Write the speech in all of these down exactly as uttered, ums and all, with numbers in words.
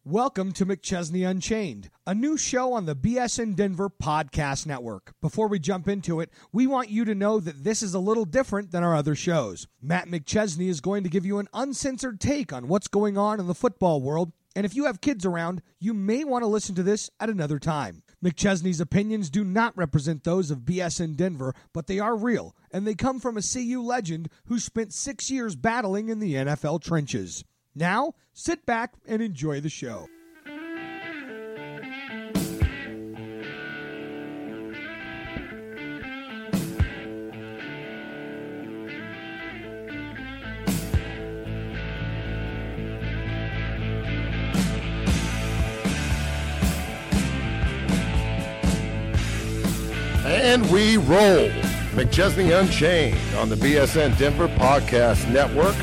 Welcome to McChesney Unchained, a new show on the B S N Denver Podcast Network. Before we jump into it, we want you to know that this is a little different than our other shows. Matt McChesney is going to give you an uncensored take on what's going on in the football world, and if you have kids around, you may want to listen to this at another time. McChesney's opinions do not represent those of B S N Denver, but they are real, and they come from a C U legend who spent six years battling in the N F L trenches. Now, sit back and enjoy the show. And we roll. McChesney Unchained on the B S N Denver Podcast Network.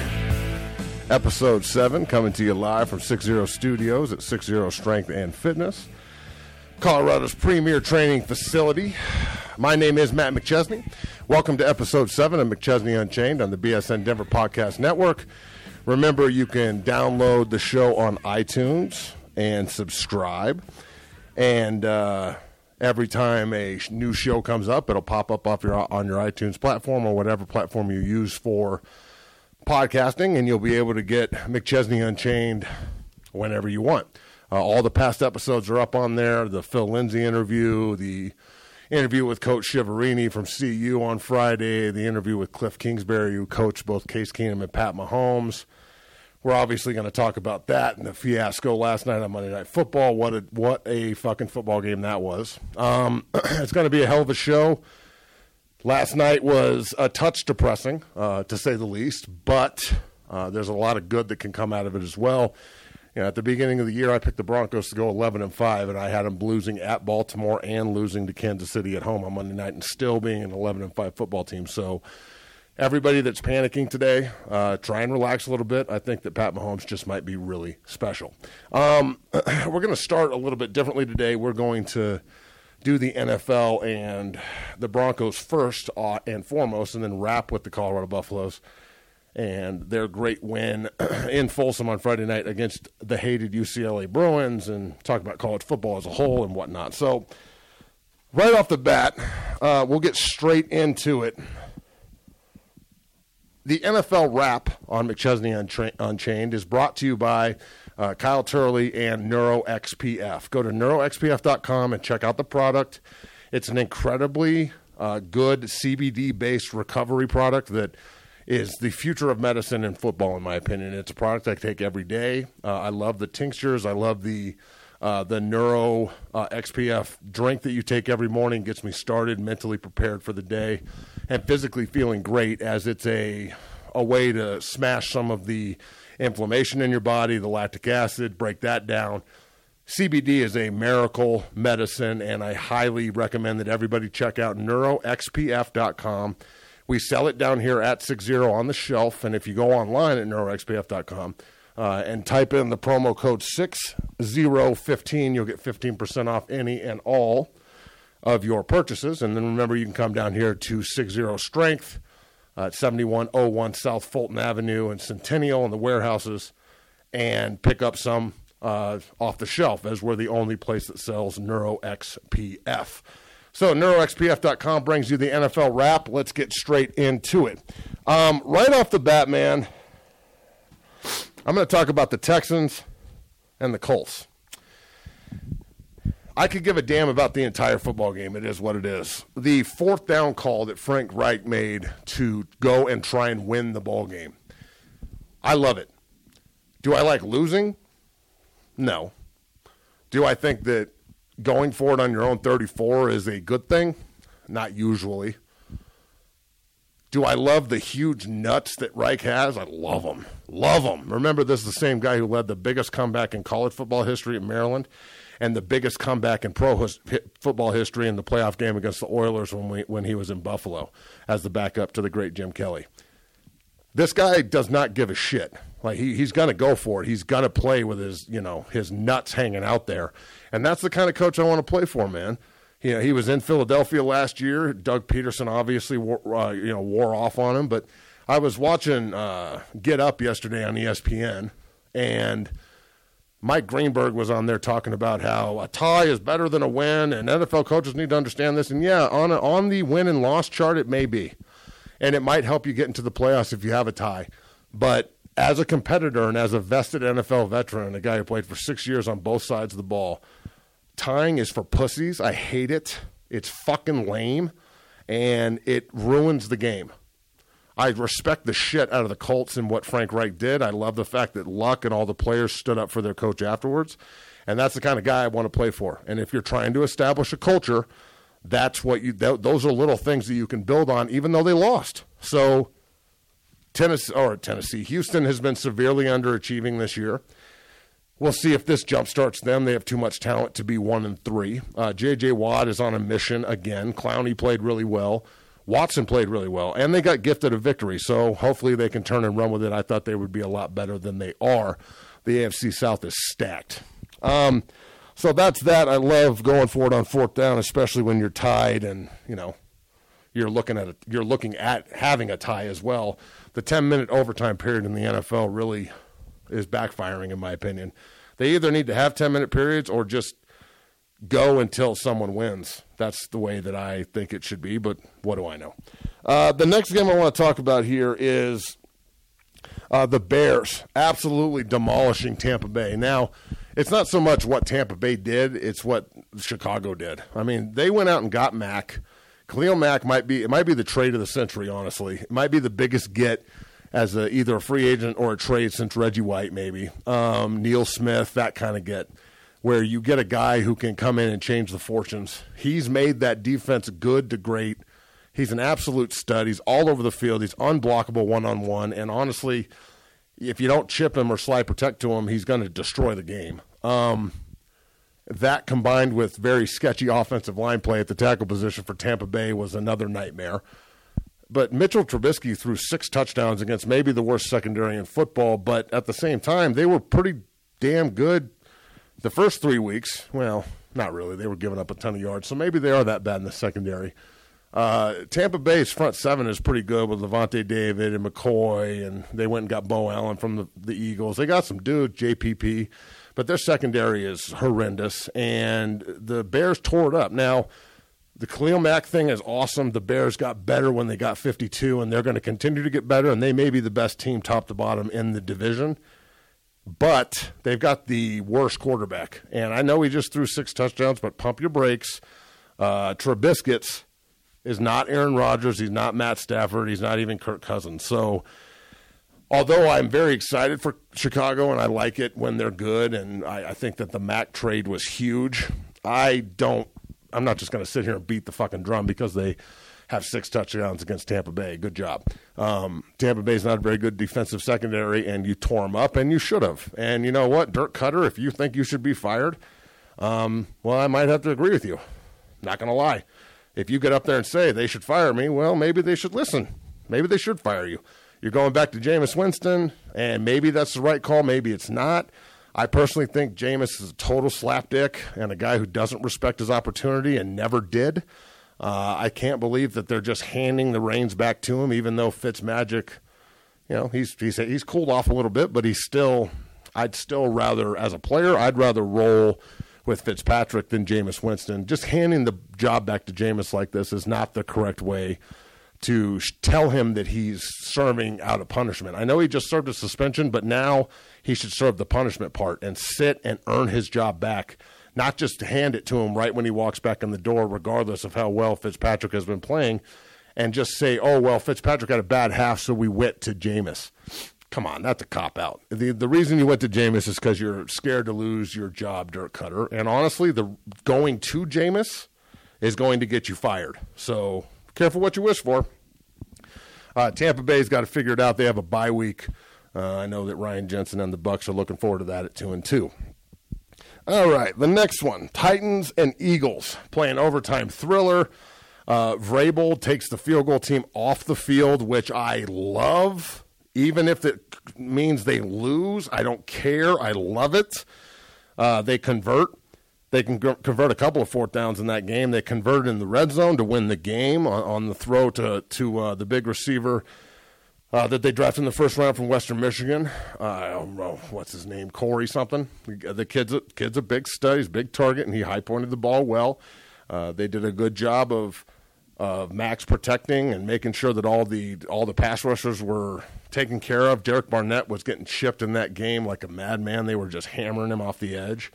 Episode seven, coming to you live from six zero Studios at six zero Strength and Fitness, Colorado's premier training facility. My name is Matt McChesney. Welcome to Episode seven of McChesney Unchained on the B S N Denver Podcast Network. Remember, you can download the show on iTunes and subscribe. And uh, every time a new show comes up, it'll pop up off your, on your iTunes platform or whatever platform you use for podcasting, and you'll be able to get McChesney Unchained whenever you want. Uh, all the past episodes are up on there. The Phil Lindsay interview, the interview with Coach Shiverini from C U on Friday, the interview with Cliff Kingsbury, who coached both Case Keenum and Pat Mahomes. We're obviously going to talk about that and the fiasco last night on Monday Night Football. What a, what a fucking football game that was. Um, it's going to be a hell of a show. Last night was a touch depressing, uh, to say the least, but uh, there's a lot of good that can come out of it as well. You know, at the beginning of the year, I picked the Broncos to go eleven and five, and I had them losing at Baltimore and losing to Kansas City at home on Monday night, and still being an eleven and five football team. So everybody that's panicking today, uh, try and relax a little bit. I think that Pat Mahomes just might be really special. Um, we're going to start a little bit differently today. We're going to do the N F L and the Broncos first uh, and foremost, and then wrap with the Colorado Buffaloes and their great win in Folsom on Friday night against the hated U C L A Bruins, and talk about college football as a whole and whatnot. So right off the bat, uh, we'll get straight into it. The N F L wrap on McChesney Untra- Unchained is brought to you by Uh, Kyle Turley and NeuroXPF. Go to neuro X P F dot com and check out the product. It's an incredibly uh, good C B D-based recovery product that is the future of medicine and football, in my opinion. It's a product I take every day. Uh, I love the tinctures. I love the uh, the Neuro uh, X P F drink that you take every morning. Gets me started, mentally prepared for the day, and physically feeling great, as it's a a way to smash some of the inflammation in your body, the lactic acid, break that down. C B D is a miracle medicine, and I highly recommend that everybody check out neuro X P F dot com. We sell it down here at six zero on the shelf, and if you go online at neuro X P F dot com uh, and type in the promo code six zero fifteen, you'll get fifteen percent off any and all of your purchases. And then remember, you can come down here to six zero Strength, Uh, at seventy-one oh one South Fulton Avenue and Centennial in the warehouses, and pick up some uh, off the shelf, as we're the only place that sells Neuro X P F. So neuro X P F dot com brings you the N F L wrap. Let's get straight into it. Um, right off the bat, man, I'm going to talk about the Texans and the Colts. I could give a damn about the entire football game. It is what it is. The fourth down call that Frank Reich made to go and try and win the ball game, I love it. Do I like losing? No. Do I think that going for it on your own thirty-four is a good thing? Not usually. Do I love the huge nuts that Reich has? I love them. Love them. Remember, this is the same guy who led the biggest comeback in college football history at Maryland, and the biggest comeback in pro his, football history in the playoff game against the Oilers when we, when he was in Buffalo as the backup to the great Jim Kelly. This guy does not give a shit. Like he he's gonna go for it. He's gonna play with his you know his nuts hanging out there, and that's the kind of coach I want to play for, man. You know, he was in Philadelphia last year. Doug Peterson obviously wore, uh, you know wore off on him, but I was watching uh, Get Up yesterday on E S P N, and Mike Greenberg was on there talking about how a tie is better than a win, and N F L coaches need to understand this. And, yeah, on, a, on the win and loss chart, it may be. And it might help you get into the playoffs if you have a tie. But as a competitor and as a vested N F L veteran, a guy who played for six years on both sides of the ball, tying is for pussies. I hate it. It's fucking lame, and it ruins the game. I respect the shit out of the Colts and what Frank Reich did. I love the fact that Luck and all the players stood up for their coach afterwards, and that's the kind of guy I want to play for. And if you're trying to establish a culture, that's what you. Th- those are little things that you can build on, even though they lost. So, Tennessee or Tennessee, Houston has been severely underachieving this year. We'll see if this jumpstarts them. They have too much talent to be one and three. Uh, J J. Watt is on a mission again. Clowney played really well. Watson played really well, and they got gifted a victory, so hopefully they can turn and run with it. I thought they would be a lot better than they are. The A F C South is stacked. Um, so that's that. I love going for it on fourth down, especially when you're tied and, you know, you're looking at a, you're looking at having a tie as well. The ten-minute overtime period in the N F L really is backfiring, in my opinion. They either need to have ten-minute periods or just go until someone wins. That's the way that I think it should be, but what do I know? Uh, the next game I want to talk about here is uh, the Bears absolutely demolishing Tampa Bay. Now, it's not so much what Tampa Bay did, it's what Chicago did. I mean, they went out and got Mack. Khalil Mack might be it might be the trade of the century, honestly. It might be the biggest get as a, either a free agent or a trade since Reggie White, maybe. Um, Neil Smith, that kind of get, where you get a guy who can come in and change the fortunes. He's made that defense good to great. He's an absolute stud. He's all over the field. He's unblockable one-on-one. And honestly, if you don't chip him or slide protect to him, he's going to destroy the game. Um, that combined with very sketchy offensive line play at the tackle position for Tampa Bay was another nightmare. But Mitchell Trubisky threw six touchdowns against maybe the worst secondary in football, but at the same time, they were pretty damn good the first three weeks. Well, not really. They were giving up a ton of yards, so maybe they are that bad in the secondary. Uh, Tampa Bay's front seven is pretty good with Levante David and McCoy, and they went and got Bo Allen from the, the Eagles. They got some dudes, J P P, but their secondary is horrendous, and the Bears tore it up. Now, the Khalil Mack thing is awesome. The Bears got better when they got fifty-two, and they're going to continue to get better, and they may be the best team top to bottom in the division. But they've got the worst quarterback. And I know he just threw six touchdowns, but pump your brakes. Uh, Trubisky is not Aaron Rodgers. He's not Matt Stafford. He's not even Kirk Cousins. So although I'm very excited for Chicago, and I like it when they're good, and I, I think that the Mack trade was huge, I don't – I'm not just going to sit here and beat the fucking drum because they have six touchdowns against Tampa Bay. Good job. Um, Tampa Bay's not a very good defensive secondary, and you tore them up, and you should have. And you know what? Dirk Cutter, if you think you should be fired, um, well, I might have to agree with you. Not going to lie. If you get up there and say they should fire me, well, maybe they should listen. Maybe they should fire you. You're going back to Jameis Winston, and maybe that's the right call. Maybe it's not. I personally think Jameis is a total slapdick and a guy who doesn't respect his opportunity and never did. Uh, I can't believe that they're just handing the reins back to him, even though Fitzmagic, you know, he's he's he's cooled off a little bit, but he's still, I'd still rather, as a player, I'd rather roll with Fitzpatrick than Jameis Winston. Just handing the job back to Jameis like this is not the correct way to tell him that he's serving out a punishment. I know he just served a suspension, but now he should serve the punishment part and sit and earn his job back, not just hand it to him right when he walks back in the door, regardless of how well Fitzpatrick has been playing, and just say, oh, well, Fitzpatrick had a bad half, so we went to Jameis. Come on, that's a cop-out. The the reason you went to Jameis is because you're scared to lose your job, Dirk Cutter. And honestly, the going to Jameis is going to get you fired. So careful what you wish for. Uh, Tampa Bay's got to figure it out. They have a bye week. Uh, I know that Ryan Jensen and the Bucs are looking forward to that at two and two. All right, the next one, Titans and Eagles playing overtime thriller. Uh, Vrabel takes the field goal team off the field, which I love. Even if it means they lose, I don't care. I love it. Uh, they convert. They can g- convert a couple of fourth downs in that game. They converted in the red zone to win the game on, on the throw to, to uh, the big receiver uh, that they drafted in the first round from Western Michigan. Uh, I don't know, what's his name, Corey something. The kid's a, kid's a big stud, he's a big target, and he high-pointed the ball well. Uh, they did a good job of of Max protecting and making sure that all the all the pass rushers were taken care of. Derek Barnett was getting chipped in that game like a madman. They were just hammering him off the edge.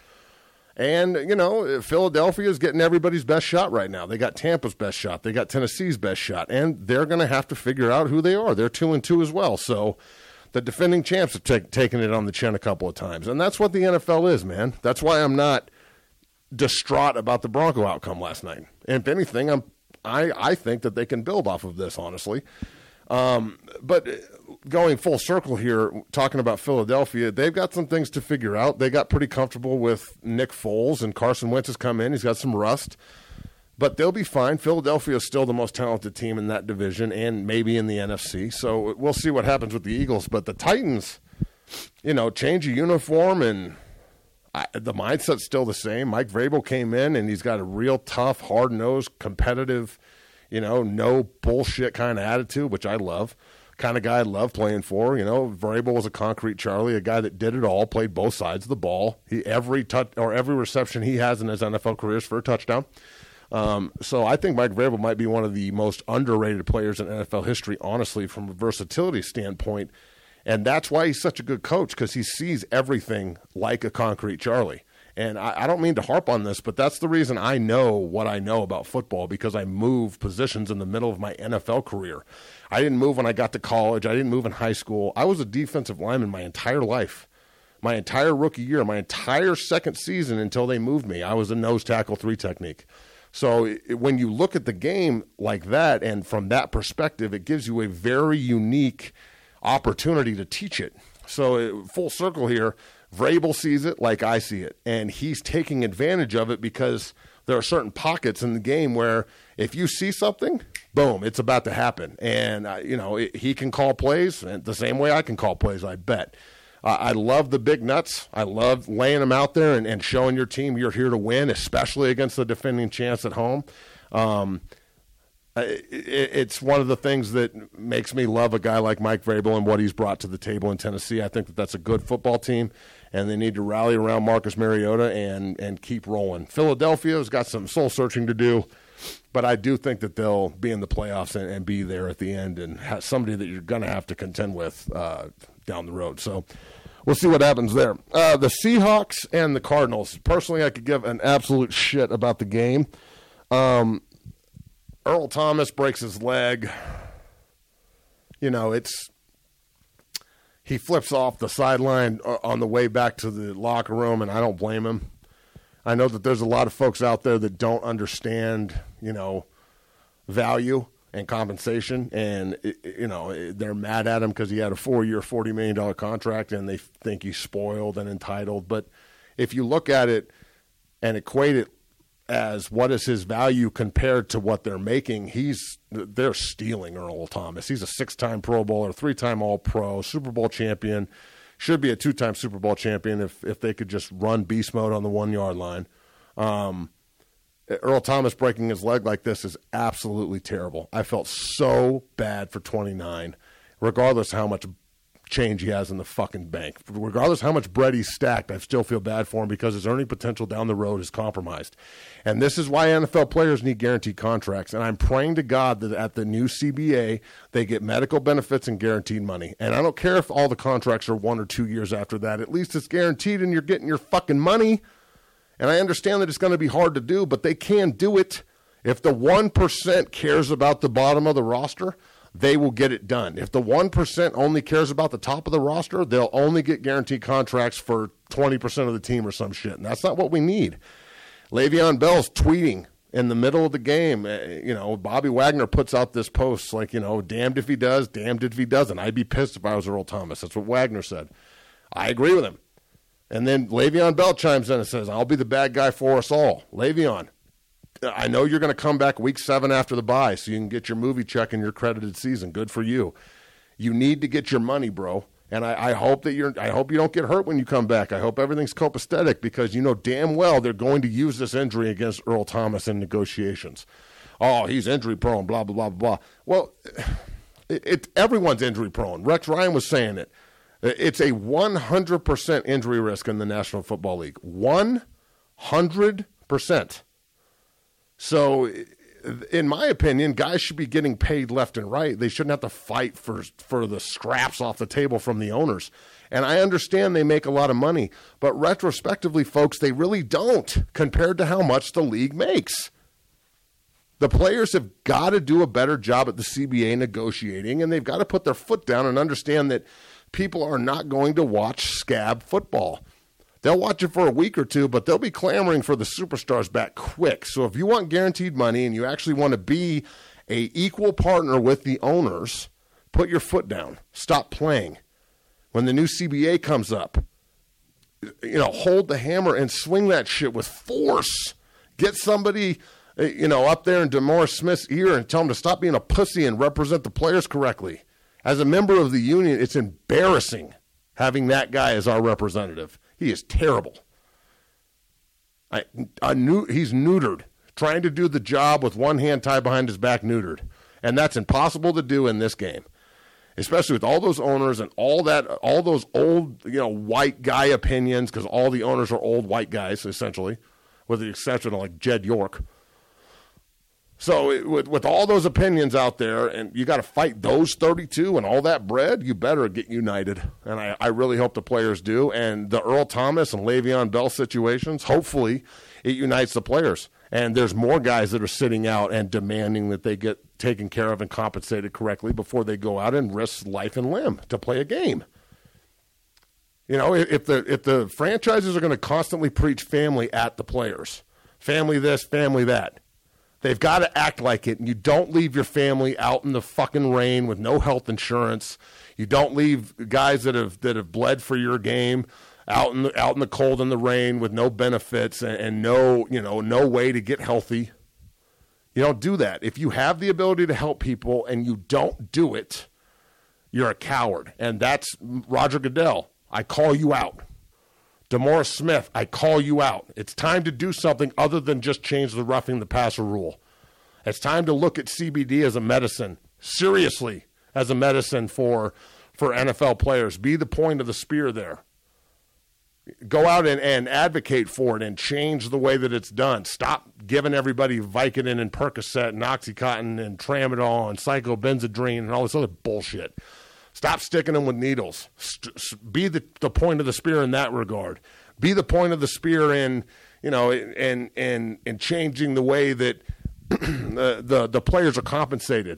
And, you know, Philadelphia is getting everybody's best shot right now. They got Tampa's best shot. They got Tennessee's best shot. And they're going to have to figure out who they are. They're two and two as well. So the defending champs have t- taken it on the chin a couple of times. And that's what the N F L is, man. That's why I'm not distraught about the Bronco outcome last night. And if anything, I'm I, I think that they can build off of this, honestly. Um, but going full circle here, talking about Philadelphia, they've got some things to figure out. They got pretty comfortable with Nick Foles, and Carson Wentz has come in. He's got some rust. But they'll be fine. Philadelphia is still the most talented team in that division and maybe in the N F C. So we'll see what happens with the Eagles. But the Titans, you know, change of uniform and I, the mindset's still the same. Mike Vrabel came in, and he's got a real tough, hard-nosed, competitive, you know, no bullshit kind of attitude, which I love. Kind of guy I love playing for. You know, Vrabel was a concrete Charlie, a guy that did it all, played both sides of the ball. He every touch or every reception he has in his N F L career is for a touchdown. Um, so I think Mike Vrabel might be one of the most underrated players in N F L history, honestly, from a versatility standpoint. And that's why he's such a good coach, because he sees everything like a concrete Charlie. And I, I don't mean to harp on this, but that's the reason I know what I know about football, because I moved positions in the middle of my N F L career. I didn't move when I got to college. I didn't move in high school. I was a defensive lineman my entire life, my entire rookie year, my entire second season until they moved me. I was a nose tackle three technique. So it, when you look at the game like that, and from that perspective, it gives you a very unique opportunity to teach it. So full circle here, Vrabel sees it like I see it, and he's taking advantage of it because there are certain pockets in the game where if you see something, boom, it's about to happen. And, uh, you know, it, he can call plays and the same way I can call plays, I bet. Uh, I love the big nuts. I love laying them out there and, and showing your team you're here to win, especially against the defending champs at home. Um It's one of the things that makes me love a guy like Mike Vrabel and what he's brought to the table in Tennessee. I think that that's a good football team, and they need to rally around Marcus Mariota and, and keep rolling. Philadelphia has got some soul-searching to do, but I do think that they'll be in the playoffs and, and be there at the end and have somebody that you're going to have to contend with uh, down the road. So we'll see what happens there. Uh, the Seahawks and the Cardinals. Personally, I could give an absolute shit about the game. Um Earl Thomas breaks his leg. You know, it's he flips off the sideline on the way back to the locker room, and I don't blame him. I know that there's a lot of folks out there that don't understand, you know, value and compensation, and, you know, they're mad at him because he had a four-year, forty million dollars contract, and they think he's spoiled and entitled. But if you look at it and equate it as what is his value compared to what they're making, he's they're stealing Earl Thomas. He's a six-time Pro Bowler, three-time All-Pro, Super Bowl champion, should be a two-time Super Bowl champion if if they could just run beast mode on the one-yard line. Um, Earl Thomas breaking his leg like this is absolutely terrible. I felt so bad for twenty-nine, regardless of how much change he has in the fucking bank. Regardless of how much bread he's stacked, I still feel bad for him because his earning potential down the road is compromised. And this is why N F L players need guaranteed contracts. And I'm praying to God that at the new C B A, they get medical benefits and guaranteed money. And I don't care if all the contracts are one or two years after that. At least it's guaranteed and you're getting your fucking money. And I understand that it's going to be hard to do, but they can do it. If the one percent cares about the bottom of the roster, they will get it done. If the one percent only cares about the top of the roster, they'll only get guaranteed contracts for twenty percent of the team or some shit. And that's not what we need. Le'Veon Bell's tweeting in the middle of the game. You know, Bobby Wagner puts out this post like, you know, damned if he does, damned if he doesn't. I'd be pissed if I was Earl Thomas. That's what Wagner said. I agree with him. And then Le'Veon Bell chimes in and says, I'll be the bad guy for us all. Le'Veon, I know you're going to come back week seven after the bye so you can get your movie check in your credited season. Good for you. You need to get your money, bro. And I, I hope that you're. I hope you don't get hurt when you come back. I hope everything's copacetic because you know damn well they're going to use this injury against Earl Thomas in negotiations. Oh, he's injury prone, blah, blah, blah, blah. Well, It, it everyone's injury prone. Rex Ryan was saying it. It's a one hundred percent injury risk in the National Football League. one hundred percent. So, in my opinion, guys should be getting paid left and right. They shouldn't have to fight for for the scraps off the table from the owners. And I understand they make a lot of money, but retrospectively, folks, they really don't compared to how much the league makes. The players have got to do a better job at the C B A negotiating, and they've got to put their foot down and understand that people are not going to watch scab football. They'll watch it for a week or two, but they'll be clamoring for the superstars back quick. So if you want guaranteed money and you actually want to be a equal partner with the owners, put your foot down. Stop playing. When the new C B A comes up, you know, hold the hammer and swing that shit with force. Get somebody, you know, up there in DeMaurice Smith's ear and tell him to stop being a pussy and represent the players correctly. As a member of the union, it's embarrassing having that guy as our representative. He is terrible. I, I knew, he's neutered, trying to do the job with one hand tied behind his back neutered. And that's impossible to do in this game, especially with all those owners and all that, all those old, you know, white guy opinions, because all the owners are old white guys, essentially, with the exception of like Jed York. So it, with, with all those opinions out there, and you got to fight those thirty-two and all that bread, you better get united. And I, I really hope the players do. And the Earl Thomas and Le'Veon Bell situations, hopefully it unites the players. And there's more guys that are sitting out and demanding that they get taken care of and compensated correctly before they go out and risk life and limb to play a game. You know, if the if the franchises are going to constantly preach family at the players, family this, family that, they've got to act like it. And you don't leave your family out in the fucking rain with no health insurance. You don't leave guys that have that have bled for your game out in the, out in the cold and the rain with no benefits and, and no, you know, no way to get healthy. You don't do that. If you have the ability to help people and you don't do it, you're a coward. And that's Roger Goodell. I call you out. DeMaurice Smith, I call you out. It's time to do something other than just change the roughing the passer rule. It's time to look at C B D as a medicine, seriously, as a medicine for for N F L players. Be the point of the spear there. Go out and, and advocate for it and change the way that it's done. Stop giving everybody Vicodin and Percocet and Oxycontin and Tramadol and Psychobenzedrine and all this other bullshit. Stop sticking them with needles. St- be the, the point of the spear in that regard. Be the point of the spear in, you know, in in in changing the way that the, the the players are compensated.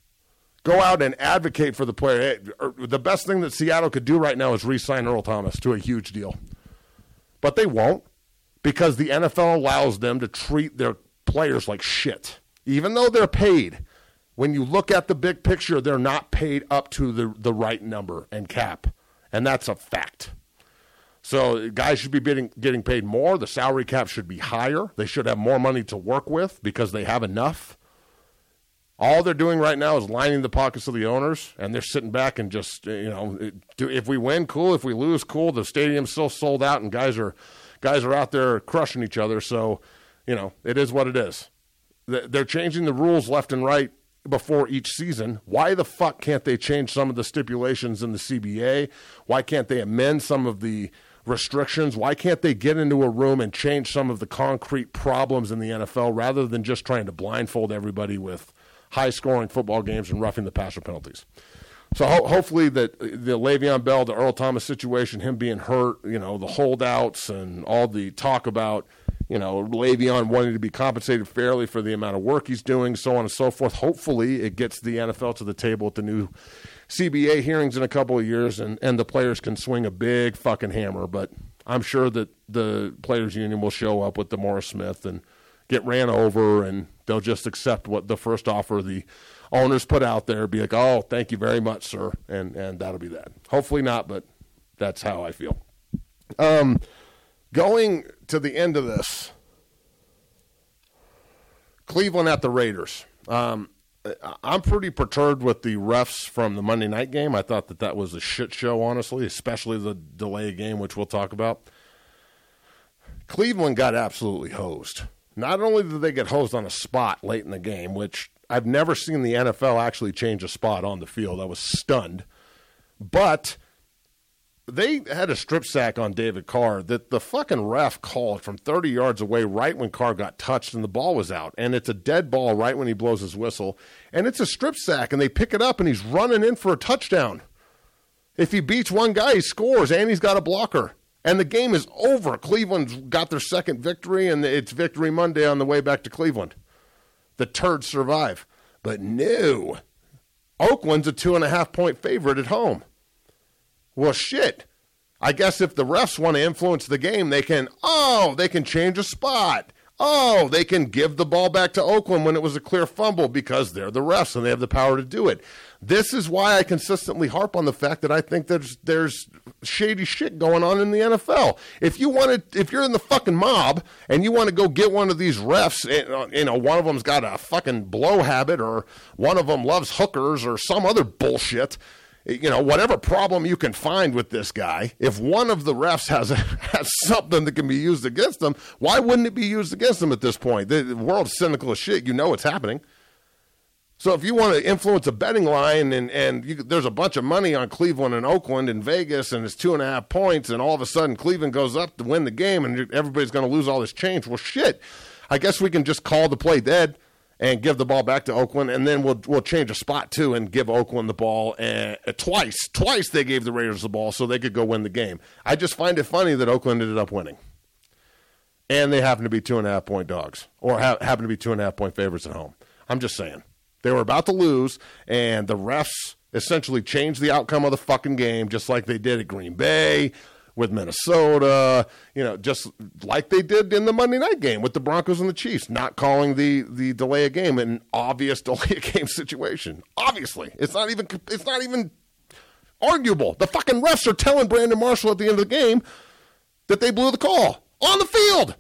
Go out and advocate for the player. The best thing that Seattle could do right now is re-sign Earl Thomas to a huge deal. But they won't, because the N F L allows them to treat their players like shit, even though they're paid. When you look at the big picture, they're not paid up to the, the right number and cap, and that's a fact. So guys should be getting, getting paid more. The salary cap should be higher. They should have more money to work with because they have enough. All they're doing right now is lining the pockets of the owners, and they're sitting back and just, you know, if we win, cool. If we lose, cool. The stadium's still sold out, and guys are guys are out there crushing each other. So, you know, it is what it is. They're changing the rules left and right before each season. Why the fuck can't they change some of the stipulations in the C B A? Why can't they amend some of the restrictions? Why can't they get into a room and change some of the concrete problems in the N F L rather than just trying to blindfold everybody with high-scoring football games and roughing the passer penalties? So ho- hopefully that the Le'Veon Bell, the Earl Thomas situation, him being hurt, you know, the holdouts and all the talk about, you know, Le'Veon wanting to be compensated fairly for the amount of work he's doing, so on and so forth. Hopefully it gets the N F L to the table at the new C B A hearings in a couple of years, and, and the players can swing a big fucking hammer. But I'm sure that the players' union will show up with DeMaurice Smith and get ran over, and they'll just accept what the first offer the owners put out there, be like, oh, thank you very much, sir, and and that'll be that. Hopefully not, but that's how I feel. Um, going to the end of this, Cleveland at the Raiders. Um, I'm pretty perturbed with the refs from the Monday night game. I thought that that was a shit show, honestly, especially the delay game, which we'll talk about. Cleveland got absolutely hosed. Not only did they get hosed on a spot late in the game, which I've never seen the N F L actually change a spot on the field. I was stunned. But they had a strip sack on David Carr that the fucking ref called from thirty yards away right when Carr got touched and the ball was out. And it's a dead ball right when he blows his whistle. And it's a strip sack, and they pick it up, and he's running in for a touchdown. If he beats one guy, he scores, and he's got a blocker. And the game is over. Cleveland's got their second victory, and it's Victory Monday on the way back to Cleveland. The turds survive. But no. Oakland's a two-and-a-half-point favorite at home. Well, shit. I guess if the refs want to influence the game, they can, oh, they can change a spot. Oh, they can give the ball back to Oakland when it was a clear fumble because they're the refs and they have the power to do it. This is why I consistently harp on the fact that I think there's there's shady shit going on in the N F L. If you want to, if you're in the fucking mob and you want to go get one of these refs, you know, one of them's got a fucking blow habit or one of them loves hookers or some other bullshit. You know, whatever problem you can find with this guy, if one of the refs has a, has something that can be used against them, why wouldn't it be used against them at this point? The, the world's cynical as shit. You know it's happening. So if you want to influence a betting line and, and you, there's a bunch of money on Cleveland and Oakland and Vegas and it's two and a half points and all of a sudden Cleveland goes up to win the game and everybody's going to lose all this change, well, shit. I guess we can just call the play dead and give the ball back to Oakland, and then we'll we'll change a spot, too, and give Oakland the ball uh, twice. Twice they gave the Raiders the ball so they could go win the game. I just find it funny that Oakland ended up winning. And they happen to be two-and-a-half-point dogs, or ha- happen to be two-and-a-half-point favorites at home. I'm just saying. They were about to lose, and the refs essentially changed the outcome of the fucking game, just like they did at Green Bay, with Minnesota, you know, just like they did in the Monday night game with the Broncos and the Chiefs, not calling the, the delay of game an obvious delay of game situation. Obviously. It's not even it's not even arguable. The fucking refs are telling Brandon Marshall at the end of the game that they blew the call on the field.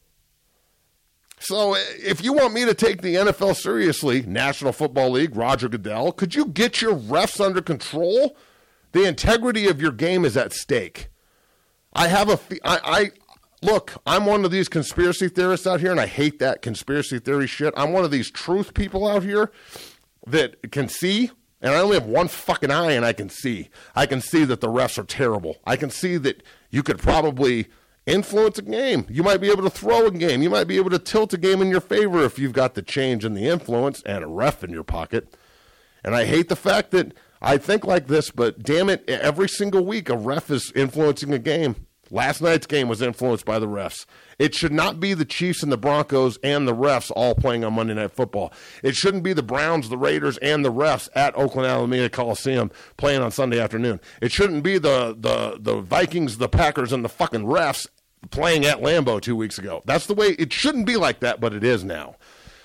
So if you want me to take the N F L seriously, National Football League, Roger Goodell, could you get your refs under control? The integrity of your game is at stake. I have a, I, I, look, I'm one of these conspiracy theorists out here, and I hate that conspiracy theory shit. I'm one of these truth people out here that can see, and I only have one fucking eye, and I can see. I can see that the refs are terrible. I can see that you could probably influence a game. You might be able to throw a game. You might be able to tilt a game in your favor if you've got the change and the influence and a ref in your pocket. And I hate the fact that I think like this, but damn it, every single week a ref is influencing a game. Last night's game was influenced by the refs. It should not be the Chiefs and the Broncos and the refs all playing on Monday Night Football. It shouldn't be the Browns, the Raiders, and the refs at Oakland Alameda Coliseum playing on Sunday afternoon. It shouldn't be the, the, the Vikings, the Packers, and the fucking refs playing at Lambeau two weeks ago. That's the way it shouldn't be like that, but it is now.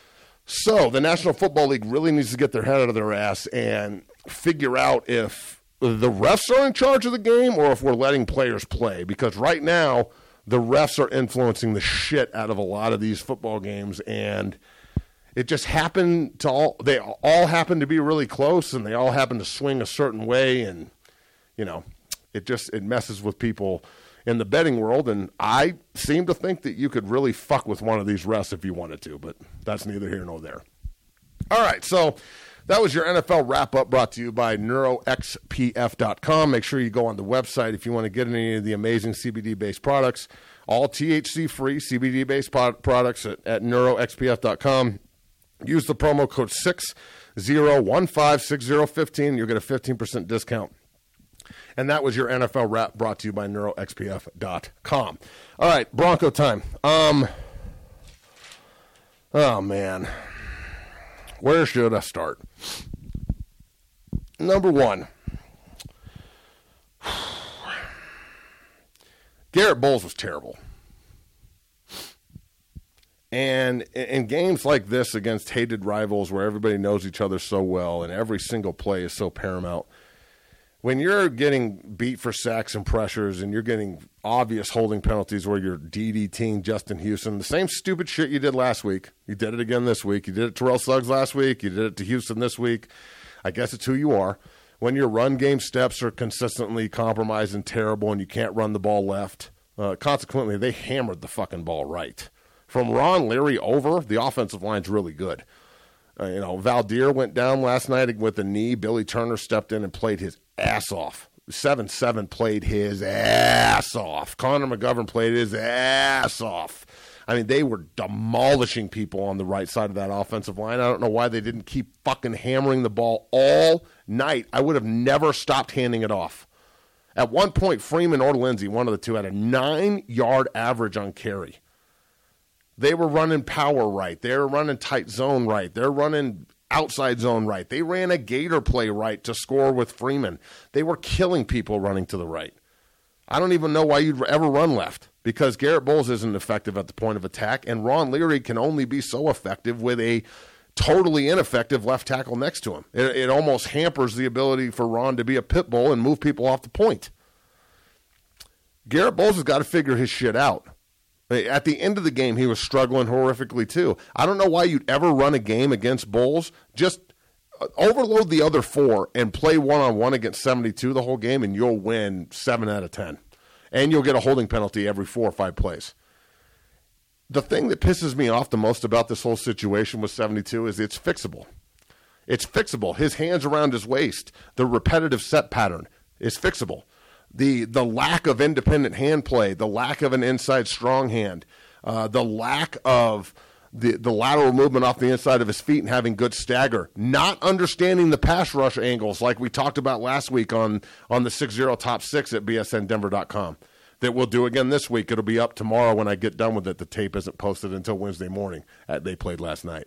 So the National Football League really needs to get their head out of their ass and figure out if the refs are in charge of the game or if we're letting players play. Because right now, the refs are influencing the shit out of a lot of these football games. And it just happened to all, they all happen to be really close and they all happen to swing a certain way. And, you know, it just, it messes with people in the betting world. And I seem to think that you could really fuck with one of these refs if you wanted to, but that's neither here nor there. All right, so that was your N F L wrap-up brought to you by neuro x p f dot com. Make sure you go on the website if you want to get any of the amazing C B D-based products, all T H C-free C B D-based products at, at neuro x p f dot com. Use the promo code six zero one five six zero one five. You'll get a fifteen percent discount. And that was your N F L wrap brought to you by neuro x p f dot com. All right, Bronco time. Um, oh, man. Where should I start? Number one, Garrett Bowles was terrible. And in games like this against hated rivals where everybody knows each other so well and every single play is so paramount, when you're getting beat for sacks and pressures and you're getting obvious holding penalties where you're DDTing Justin Houston, the same stupid shit you did last week, you did it again this week. You did it to Terrell Suggs last week. You did it to Houston this week. I guess it's who you are. When your run game steps are consistently compromised and terrible and you can't run the ball left, uh, consequently, they hammered the fucking ball right. From Ron Leary over, the offensive line's really good. Uh, you know, Valdir went down last night with a knee. Billy Turner stepped in and played his ass off. seven seven played his ass off. Connor McGovern played his ass off. I mean, they were demolishing people on the right side of that offensive line. I don't know why they didn't keep fucking hammering the ball all night. I would have never stopped handing it off. At one point, Freeman or Lindsey, one of the two, had a nine-yard average on carry. They were running power right. They were running tight zone right. They're running outside zone right. They ran a gator play right to score with Freeman. They were killing people running to the right. I don't even know why you'd ever run left because Garrett Bowles isn't effective at the point of attack, and Ron Leary can only be so effective with a totally ineffective left tackle next to him. It, it almost hampers the ability for Ron to be a pit bull and move people off the point. Garrett Bowles has got to figure his shit out. At the end of the game, he was struggling horrifically, too. I don't know why you'd ever run a game against Bowles. Just overload the other four and play one-on-one against seventy-two the whole game, and you'll win seven out of ten. And you'll get a holding penalty every four or five plays. The thing that pisses me off the most about this whole situation with seventy-two is it's fixable. It's fixable. His hands around his waist, the repetitive set pattern is fixable. The the lack of independent hand play, the lack of an inside strong hand, uh, the lack of the, the lateral movement off the inside of his feet and having good stagger, not understanding the pass rush angles like we talked about last week on, on the six zero Top six at B S N Denver dot com. That we'll do again this week. It'll be up tomorrow when I get done with it. The tape isn't posted until Wednesday morning. Uh, they played last night.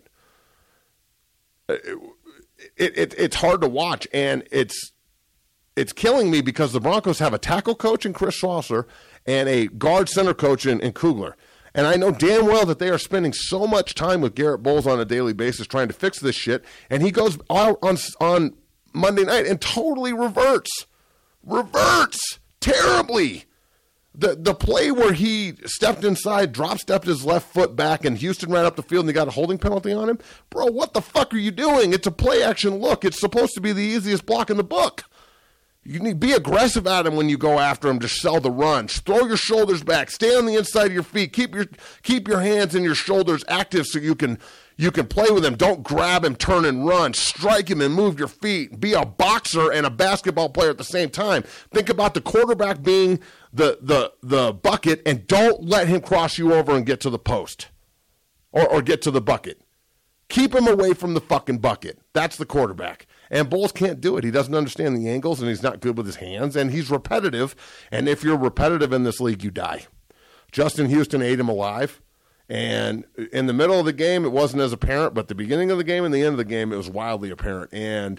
It, it, it, it's hard to watch, and it's It's killing me because the Broncos have a tackle coach in Chris Schlosser and a guard center coach in, in Kugler. And I know damn well that they are spending so much time with Garrett Bowles on a daily basis trying to fix this shit. And he goes out on, on Monday night and totally reverts. Reverts terribly. The the play where he stepped inside, drop stepped his left foot back, and Houston ran up the field and they got a holding penalty on him. Bro, what the fuck are you doing? It's a play action look. It's supposed to be the easiest block in the book. You need to be aggressive at him when you go after him to sell the run. Throw your shoulders back. Stay on the inside of your feet. Keep your keep your hands and your shoulders active so you can you can play with him. Don't grab him, turn and run. Strike him and move your feet. Be a boxer and a basketball player at the same time. Think about the quarterback being the the the bucket, and don't let him cross you over and get to the post or, or get to the bucket. Keep him away from the fucking bucket. That's the quarterback. And Bowles can't do it. He doesn't understand the angles, and he's not good with his hands, and he's repetitive. And if you're repetitive in this league, you die. Justin Houston ate him alive. And in the middle of the game, it wasn't as apparent, but the beginning of the game and the end of the game, it was wildly apparent. And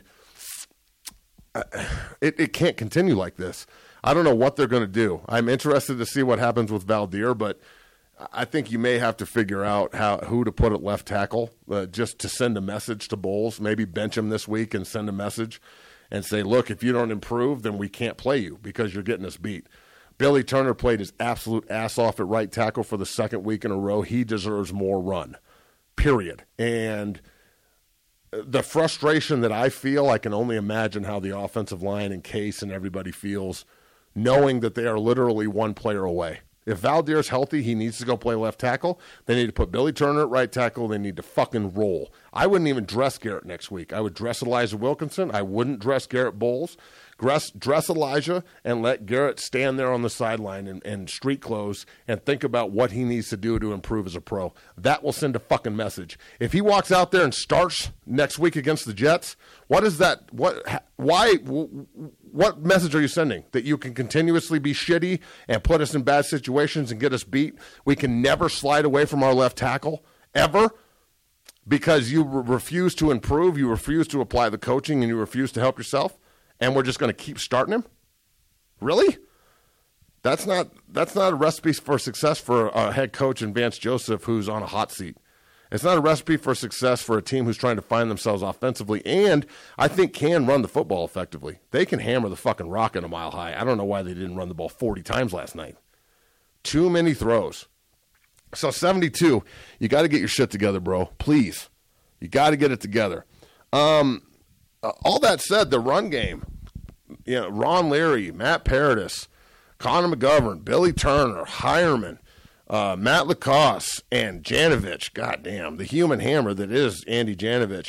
it, it can't continue like this. I don't know what they're going to do. I'm interested to see what happens with Valdir, but I think you may have to figure out how who to put at left tackle uh, just to send a message to Bowles. Maybe bench him this week and send a message and say, look, if you don't improve, then we can't play you because you're getting us beat. Billy Turner played his absolute ass off at right tackle for the second week in a row. He deserves more run, period. And the frustration that I feel, I can only imagine how the offensive line and Case and everybody feels knowing that they are literally one player away. If Valdir's healthy, he needs to go play left tackle. They need to put Billy Turner at right tackle. They need to fucking roll. I wouldn't even dress Garrett next week. I would dress Elijah Wilkinson. I wouldn't dress Garrett Bowles. Dress, dress Elijah and let Garrett stand there on the sideline in, in street clothes and think about what he needs to do to improve as a pro. That will send a fucking message. If he walks out there and starts next week against the Jets, what is that? What? Why? What message are you sending? That you can continuously be shitty and put us in bad situations and get us beat? We can never slide away from our left tackle, ever, because you re- refuse to improve, you refuse to apply the coaching, and you refuse to help yourself? And we're just going to keep starting him? Really? That's not that's not a recipe for success for a head coach in Vance Joseph who's on a hot seat. It's not a recipe for success for a team who's trying to find themselves offensively and I think can run the football effectively. They can hammer the fucking rock at a mile high. I don't know why they didn't run the ball forty times last night. Too many throws. So seventy-two, you got to get your shit together, bro. Please. You got to get it together. Um... Uh, all that said, the run game, you know, Ron Leary, Matt Paradis, Connor McGovern, Billy Turner, Hireman, Uh, Matt Lacoste and Janovich, goddamn, the human hammer that is Andy Janovich.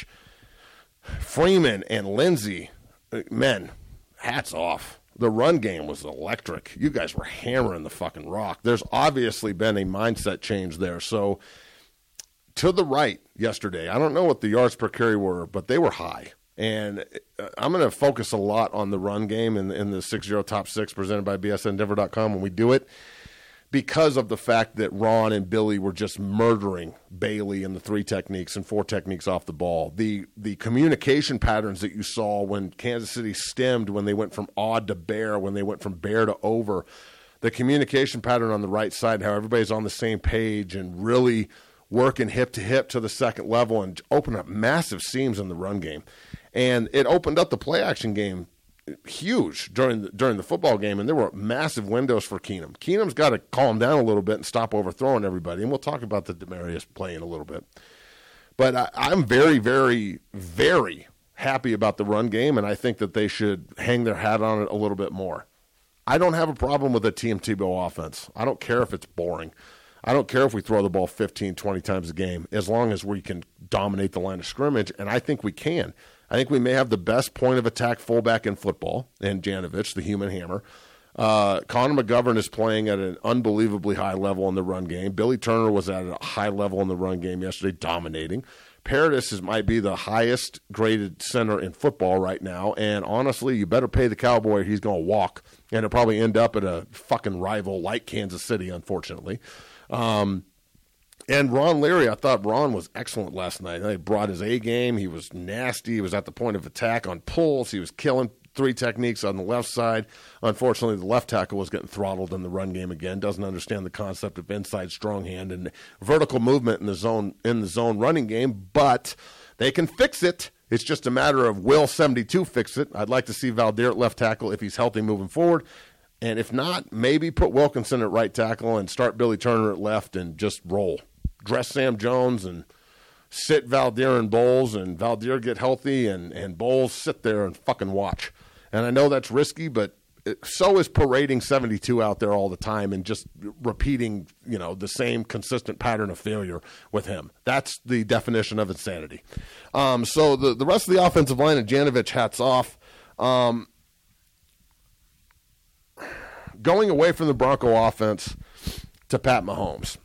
Freeman and Lindsey, men, hats off. The run game was electric. You guys were hammering the fucking rock. There's obviously been a mindset change there. So to the right yesterday, I don't know what the yards per carry were, but they were high. And I'm going to focus a lot on the run game in, in the six zero Top six presented by B S N Denver dot com when we do it, because of the fact that Ron and Billy were just murdering Bailey in the three techniques and four techniques off the ball. The the communication patterns that you saw when Kansas City stemmed, when they went from odd to bear, when they went from bear to over, the communication pattern on the right side, how everybody's on the same page and really working hip to hip to the second level and open up massive seams in the run game. And it opened up the play action game huge during the, during the football game, and there were massive windows for Keenum. Keenum's got to calm down a little bit and stop overthrowing everybody, and we'll talk about the Demaryius play in a little bit. But I, I'm very, very, very happy about the run game, and I think that they should hang their hat on it a little bit more. I don't have a problem with a Tim Tebow offense. I don't care if it's boring. I don't care if we throw the ball fifteen, twenty times a game, as long as we can dominate the line of scrimmage, and I think we can. I think we may have the best point of attack fullback in football, and Janovich, the human hammer. Uh, Connor McGovern is playing at an unbelievably high level in the run game. Billy Turner was at a high level in the run game yesterday, dominating. Paradis is, might be the highest graded center in football right now, and honestly, you better pay the Cowboy or he's going to walk, and it'll probably end up at a fucking rival like Kansas City, unfortunately. Um, And Ron Leary, I thought Ron was excellent last night. He brought his A game. He was nasty. He was at the point of attack on pulls. He was killing three techniques on the left side. Unfortunately, the left tackle was getting throttled in the run game again. Doesn't understand the concept of inside strong hand and vertical movement in the zone in the zone running game. But they can fix it. It's just a matter of will seventy-two fix it. I'd like to see Valdir at left tackle if he's healthy moving forward. And if not, maybe put Wilkinson at right tackle and start Billy Turner at left and just roll. Dress Sam Jones and sit Valdir and Bowles, and Valdir get healthy, and, and Bowles sit there and fucking watch. And I know that's risky, but it, so is parading seventy-two out there all the time and just repeating, you know, the same consistent pattern of failure with him. That's the definition of insanity. Um, so the, the rest of the offensive line and Janovich, hats off. Um, going away from the Bronco offense to Pat Mahomes.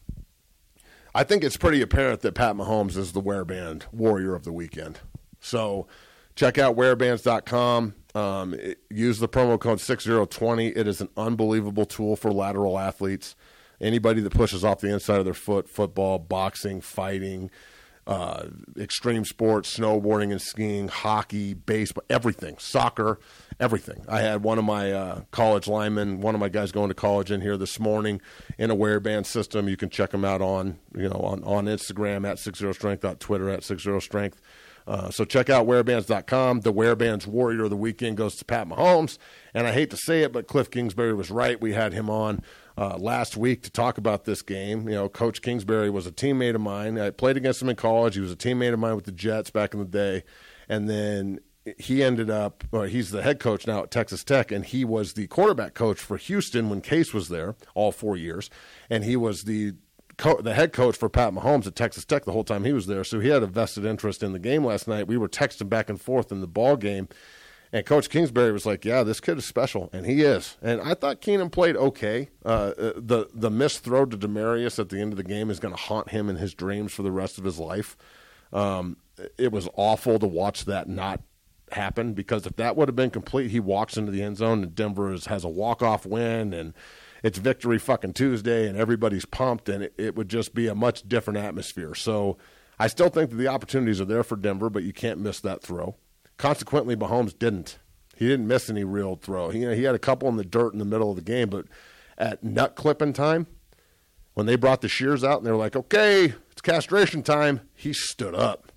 I think it's pretty apparent that Pat Mahomes is the Wearband warrior of the weekend. So check out wearbands dot com. Um, it, use the promo code six zero two zero. It is an unbelievable tool for lateral athletes. Anybody that pushes off the inside of their foot, football, boxing, fighting, uh, extreme sports, snowboarding and skiing, hockey, baseball, everything, soccer, everything. I had one of my uh, college linemen, one of my guys going to college in here this morning in a Wearband system. You can check them out on, you know, on, on Instagram at six zero strength, on Twitter at six zero strength. Uh, so check out wearbands dot com. The Wearband's warrior of the weekend goes to Pat Mahomes. And I hate to say it, but Cliff Kingsbury was right. We had him on uh, last week to talk about this game. You know, Coach Kingsbury was a teammate of mine. I played against him in college. He was a teammate of mine with the Jets back in the day. And then he ended up, well, he's the head coach now at Texas Tech, and he was the quarterback coach for Houston when Case was there all four years. And he was the Co- the head coach for Pat Mahomes at Texas Tech the whole time he was there, so he had a vested interest in the game last night. We were texting back and forth in the ball game, and Coach Kingsbury was like, yeah, this kid is special, and he is. And I thought Keenum played okay. Uh, the the missed throw to Demaryius at the end of the game is going to haunt him in his dreams for the rest of his life. Um, it was awful to watch that not happen, because if that would have been complete, he walks into the end zone, and Denver is, has a walk-off win, and it's Victory fucking Tuesday, and everybody's pumped, and it, it would just be a much different atmosphere. So I still think that the opportunities are there for Denver, but you can't miss that throw. Consequently, Mahomes didn't. He didn't miss any real throw. He, you know, he had a couple in the dirt in the middle of the game, but at nut clipping time, when they brought the shears out and they were like, okay, it's castration time, he stood up.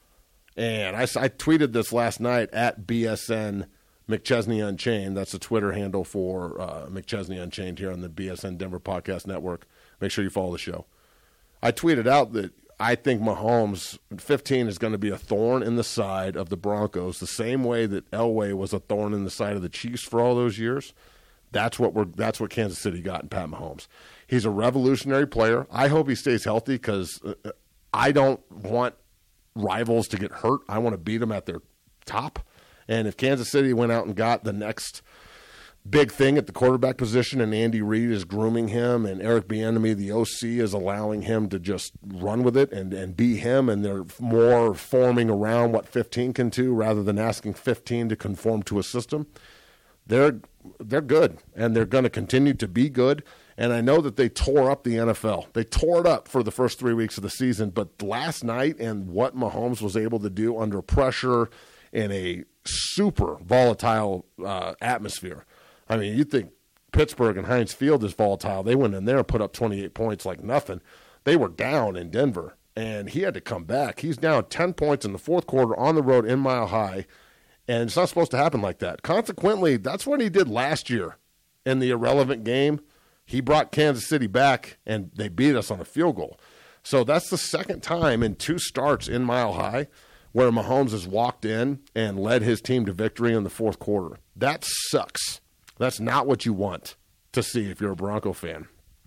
And I, I tweeted this last night at B S N McChesney Unchained. That's the Twitter handle for uh, McChesney Unchained here on the B S N Denver Podcast Network. Make sure you follow the show. I tweeted out that I think Mahomes fifteen is going to be a thorn in the side of the Broncos, the same way that Elway was a thorn in the side of the Chiefs for all those years. That's what we're. That's what Kansas City got in Pat Mahomes. He's a revolutionary player. I hope he stays healthy because I don't want rivals to get hurt. I want to beat them at their top. And if Kansas City went out and got the next big thing at the quarterback position and Andy Reid is grooming him and Eric Bieniemy, the O C, is allowing him to just run with it and, and be him, and they're more forming around what fifteen can do rather than asking fifteen to conform to a system, they're they're good, and they're going to continue to be good. And I know that they tore up the N F L. They tore it up for the first three weeks of the season, but last night and what Mahomes was able to do under pressure in a super volatile uh, atmosphere. I mean, you think Pittsburgh and Heinz Field is volatile. They went in there and put up twenty-eight points like nothing. They were down in Denver, and he had to come back. He's down ten points in the fourth quarter on the road in Mile High, and it's not supposed to happen like that. Consequently, that's what he did last year in the irrelevant game. He brought Kansas City back, and they beat us on a field goal. So that's the second time in two starts in Mile High where Mahomes has walked in and led his team to victory in the fourth quarter. That sucks. That's not what you want to see if you're a Bronco fan.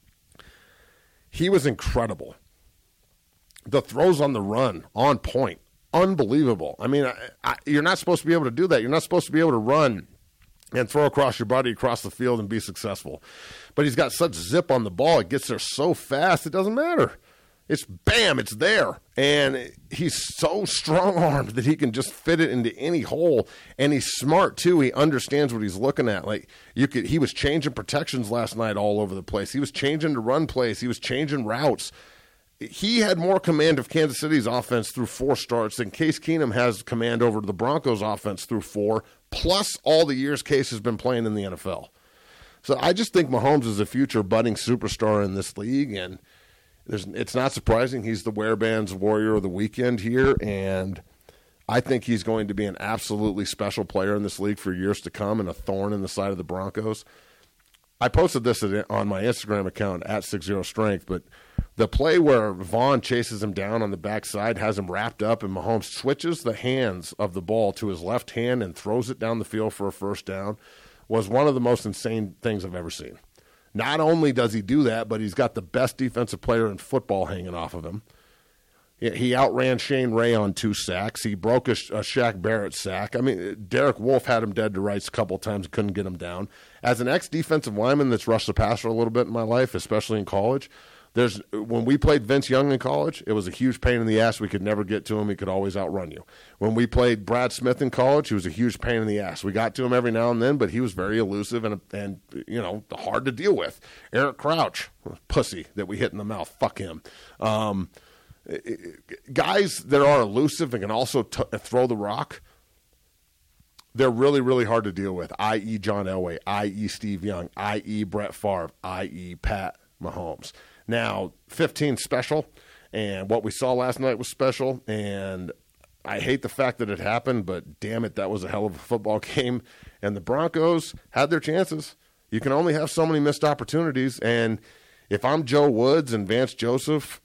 He was incredible. The throws on the run, on point, unbelievable. I mean, I, I, you're not supposed to be able to do that. You're not supposed to be able to run and throw across your body across the field and be successful. But he's got such zip on the ball. It gets there so fast, it doesn't matter. It's bam, it's there. And he's so strong-armed that he can just fit it into any hole. And he's smart, too. He understands what he's looking at. Like you could, he was changing protections last night all over the place. He was changing to run plays. He was changing routes. He had more command of Kansas City's offense through four starts than Case Keenum has command over the Broncos' offense through four, plus all the years Case has been playing in the N F L. So I just think Mahomes is a future budding superstar in this league, and There's, it's not surprising. He's the Wear-Bands Warrior of the Weekend here, and I think he's going to be an absolutely special player in this league for years to come and a thorn in the side of the Broncos. I posted this on my Instagram account, at six zero strength, but the play where Vaughn chases him down on the backside, has him wrapped up, and Mahomes switches the hands of the ball to his left hand and throws it down the field for a first down was one of the most insane things I've ever seen. Not only does he do that, but he's got the best defensive player in football hanging off of him. He outran Shane Ray on two sacks. He broke a, a Shaq Barrett sack. I mean, Derek Wolfe had him dead to rights a couple of times and couldn't get him down. As an ex-defensive lineman that's rushed the passer a little bit in my life, especially in college, there's when we played Vince Young in college, it was a huge pain in the ass. We could never get to him. He could always outrun you. When we played Brad Smith in college, he was a huge pain in the ass. We got to him every now and then, but he was very elusive and, and you know, hard to deal with. Eric Crouch, pussy that we hit in the mouth. Fuck him. Um, guys that are elusive and can also t- throw the rock, they're really, really hard to deal with, that is. John Elway, that is. Steve Young, that is. Brett Favre, that is. Pat Mahomes. Now, fifteen special, and what we saw last night was special, and I hate the fact that it happened, but damn it, that was a hell of a football game, and the Broncos had their chances. You can only have so many missed opportunities, and if I'm Joe Woods and Vance Joseph,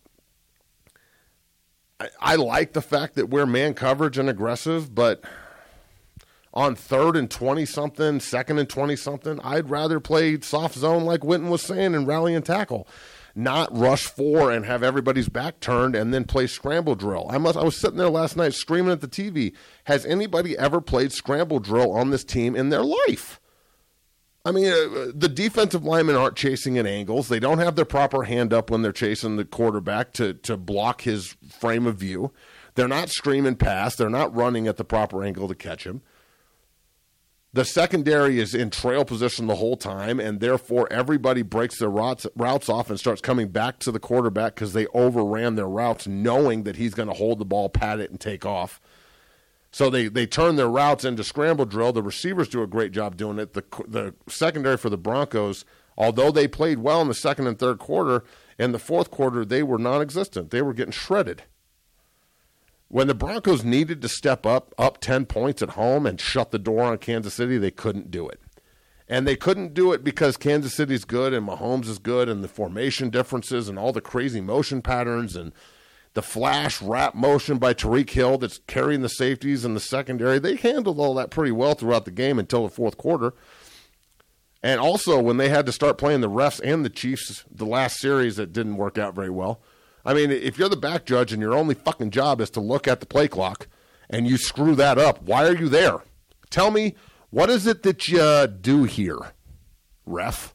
I, I like the fact that we're man coverage and aggressive, but on third and twenty-something, second and twenty-something, I'd rather play soft zone like Witten was saying and rally and tackle. Not rush four and have everybody's back turned and then play scramble drill. I must. I was sitting there last night screaming at the T V. Has anybody ever played scramble drill on this team in their life? I mean, uh, the defensive linemen aren't chasing at angles. They don't have their proper hand up when they're chasing the quarterback to, to block his frame of view. They're not screaming past. They're not running at the proper angle to catch him. The secondary is in trail position the whole time, and therefore everybody breaks their routes, routes off and starts coming back to the quarterback because they overran their routes knowing that he's going to hold the ball, pat it, and take off. So they, they turn their routes into scramble drill. The receivers do a great job doing it. The, the secondary for the Broncos, although they played well in the second and third quarter, in the fourth quarter they were non-existent. They were getting shredded. When the Broncos needed to step up, up ten points at home and shut the door on Kansas City, they couldn't do it. And they couldn't do it because Kansas City's good and Mahomes is good and the formation differences and all the crazy motion patterns and the flash wrap motion by Tyreek Hill that's carrying the safeties and the secondary. They handled all that pretty well throughout the game until the fourth quarter. And also, when they had to start playing the refs and the Chiefs, the last series that didn't work out very well. I mean, if you're the back judge and your only fucking job is to look at the play clock and you screw that up, why are you there? Tell me, what is it that you uh, do here, ref?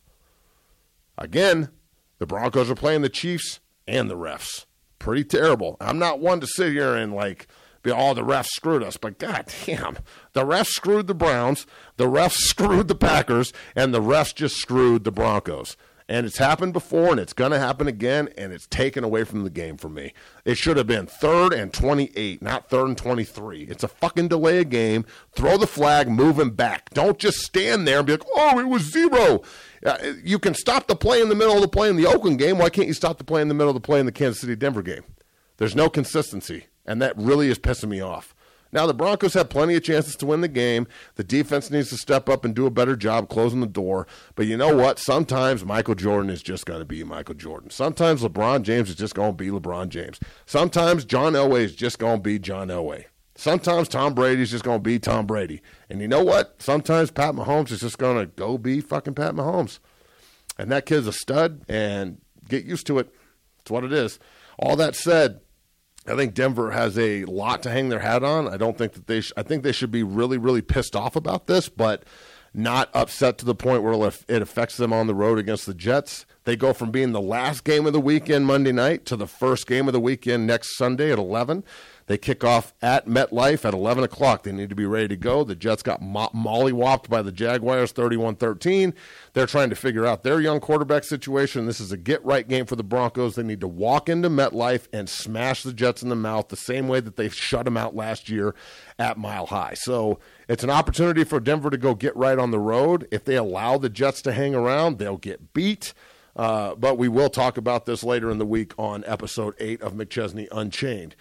Again, the Broncos are playing the Chiefs and the refs. Pretty terrible. I'm not one to sit here and, like, be, oh, the refs screwed us. But, goddamn, the refs screwed the Browns, the refs screwed the Packers, and the refs just screwed the Broncos. And it's happened before, and it's going to happen again, and it's taken away from the game for me. It should have been third and twenty-eight, not third and twenty-three. It's a fucking delay of game. Throw the flag, move him back. Don't just stand there and be like, oh, it was zero. Uh, you can stop the play in the middle of the play in the Oakland game. Why can't you stop the play in the middle of the play in the Kansas City-Denver game? There's no consistency, and that really is pissing me off. Now, the Broncos have plenty of chances to win the game. The defense needs to step up and do a better job closing the door. But you know what? Sometimes Michael Jordan is just going to be Michael Jordan. Sometimes LeBron James is just going to be LeBron James. Sometimes John Elway is just going to be John Elway. Sometimes Tom Brady is just going to be Tom Brady. And you know what? Sometimes Pat Mahomes is just going to go be fucking Pat Mahomes. And that kid's a stud, and get used to it. It's what it is. All that said, I think Denver has a lot to hang their hat on. I don't think that they sh- I think they should be really, really pissed off about this, but not upset to the point where it affects them on the road against the Jets. They go from being the last game of the weekend Monday night to the first game of the weekend next Sunday at eleven. They kick off at MetLife at eleven o'clock. They need to be ready to go. The Jets got mo- mollywopped by the Jaguars thirty-one thirteen. They're trying to figure out their young quarterback situation. This is a get-right game for the Broncos. They need to walk into MetLife and smash the Jets in the mouth the same way that they shut them out last year at Mile High. So it's an opportunity for Denver to go get right on the road. If they allow the Jets to hang around, they'll get beat. Uh, but we will talk about this later in the week on episode eight of McChesney Unchained.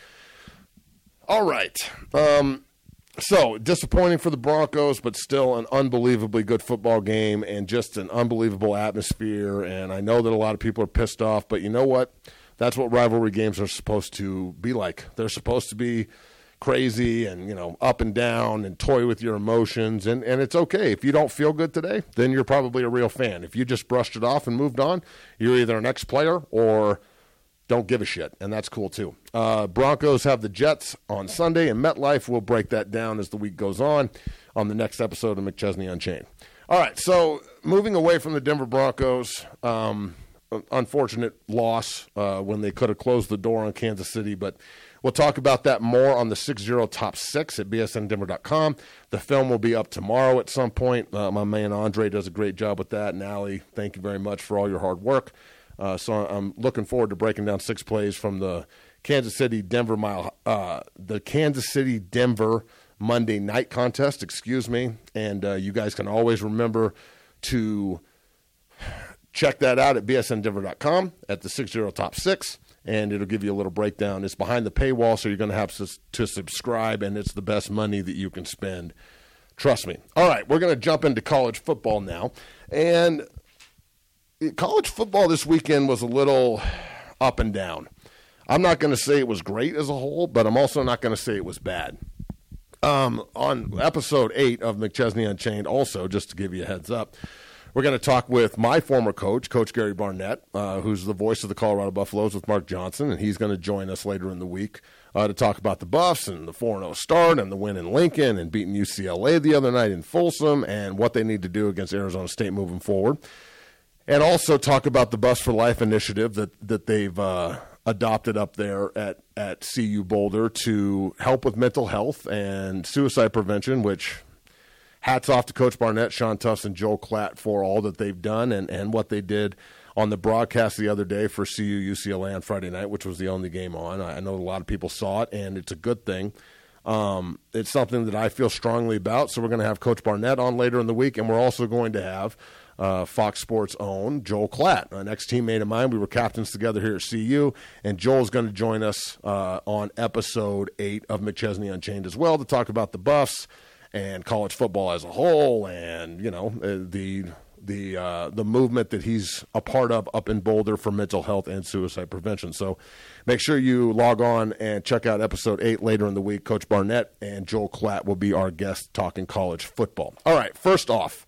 All right. Um, so, disappointing for the Broncos, but still an unbelievably good football game and just an unbelievable atmosphere. And I know that a lot of people are pissed off, but you know what? That's what rivalry games are supposed to be like. They're supposed to be crazy and, you know, up and down and toy with your emotions. And, and it's okay. If you don't feel good today, then you're probably a real fan. If you just brushed it off and moved on, you're either an ex-player or don't give a shit, and that's cool too. Uh, Broncos have the Jets on Sunday, and MetLife will break that down as the week goes on on the next episode of McChesney Unchained. All right, so moving away from the Denver Broncos, um, unfortunate loss uh, when they could have closed the door on Kansas City, but we'll talk about that more on the six zero Top six at B S N Denver dot com. The film will be up tomorrow at some point. Uh, my man Andre does a great job with that, and Allie, thank you very much for all your hard work. Uh, so I'm looking forward to breaking down six plays from the Kansas City Denver mile, uh, the Kansas City Denver Monday night contest. Excuse me, and uh, you guys can always remember to check that out at B S N Denver dot com at the six zero Top six, and it'll give you a little breakdown. It's behind the paywall, so you're going to have to, to subscribe, and it's the best money that you can spend. Trust me. All right, we're going to jump into college football now, and college football this weekend was a little up and down. I'm not going to say it was great as a whole, but I'm also not going to say it was bad. Um, on episode eight of McChesney Unchained, also, just to give you a heads up, we're going to talk with my former coach, Coach Gary Barnett, uh, who's the voice of the Colorado Buffaloes with Mark Johnson, and he's going to join us later in the week uh, to talk about the Buffs and the four and oh start and the win in Lincoln and beating U C L A the other night in Folsom and what they need to do against Arizona State moving forward. And also talk about the Bus for Life initiative that, that they've uh, adopted up there at, at C U Boulder to help with mental health and suicide prevention, which hats off to Coach Barnett, Sean Tufts, and Joel Klatt for all that they've done and, and what they did on the broadcast the other day for C U U C L A on Friday night, which was the only game on. I know a lot of people saw it, and it's a good thing. Um, it's something that I feel strongly about, so we're going to have Coach Barnett on later in the week, and we're also going to have Uh, Fox Sports' own Joel Klatt, an ex-teammate of mine. We were captains together here at C U, and Joel's going to join us uh, on episode eight of McChesney Unchained as well to talk about the Buffs and college football as a whole, and you know the the uh, the movement that he's a part of up in Boulder for mental health and suicide prevention. So make sure you log on and check out episode eight later in the week. Coach Barnett and Joel Klatt will be our guests talking college football. All right, first off,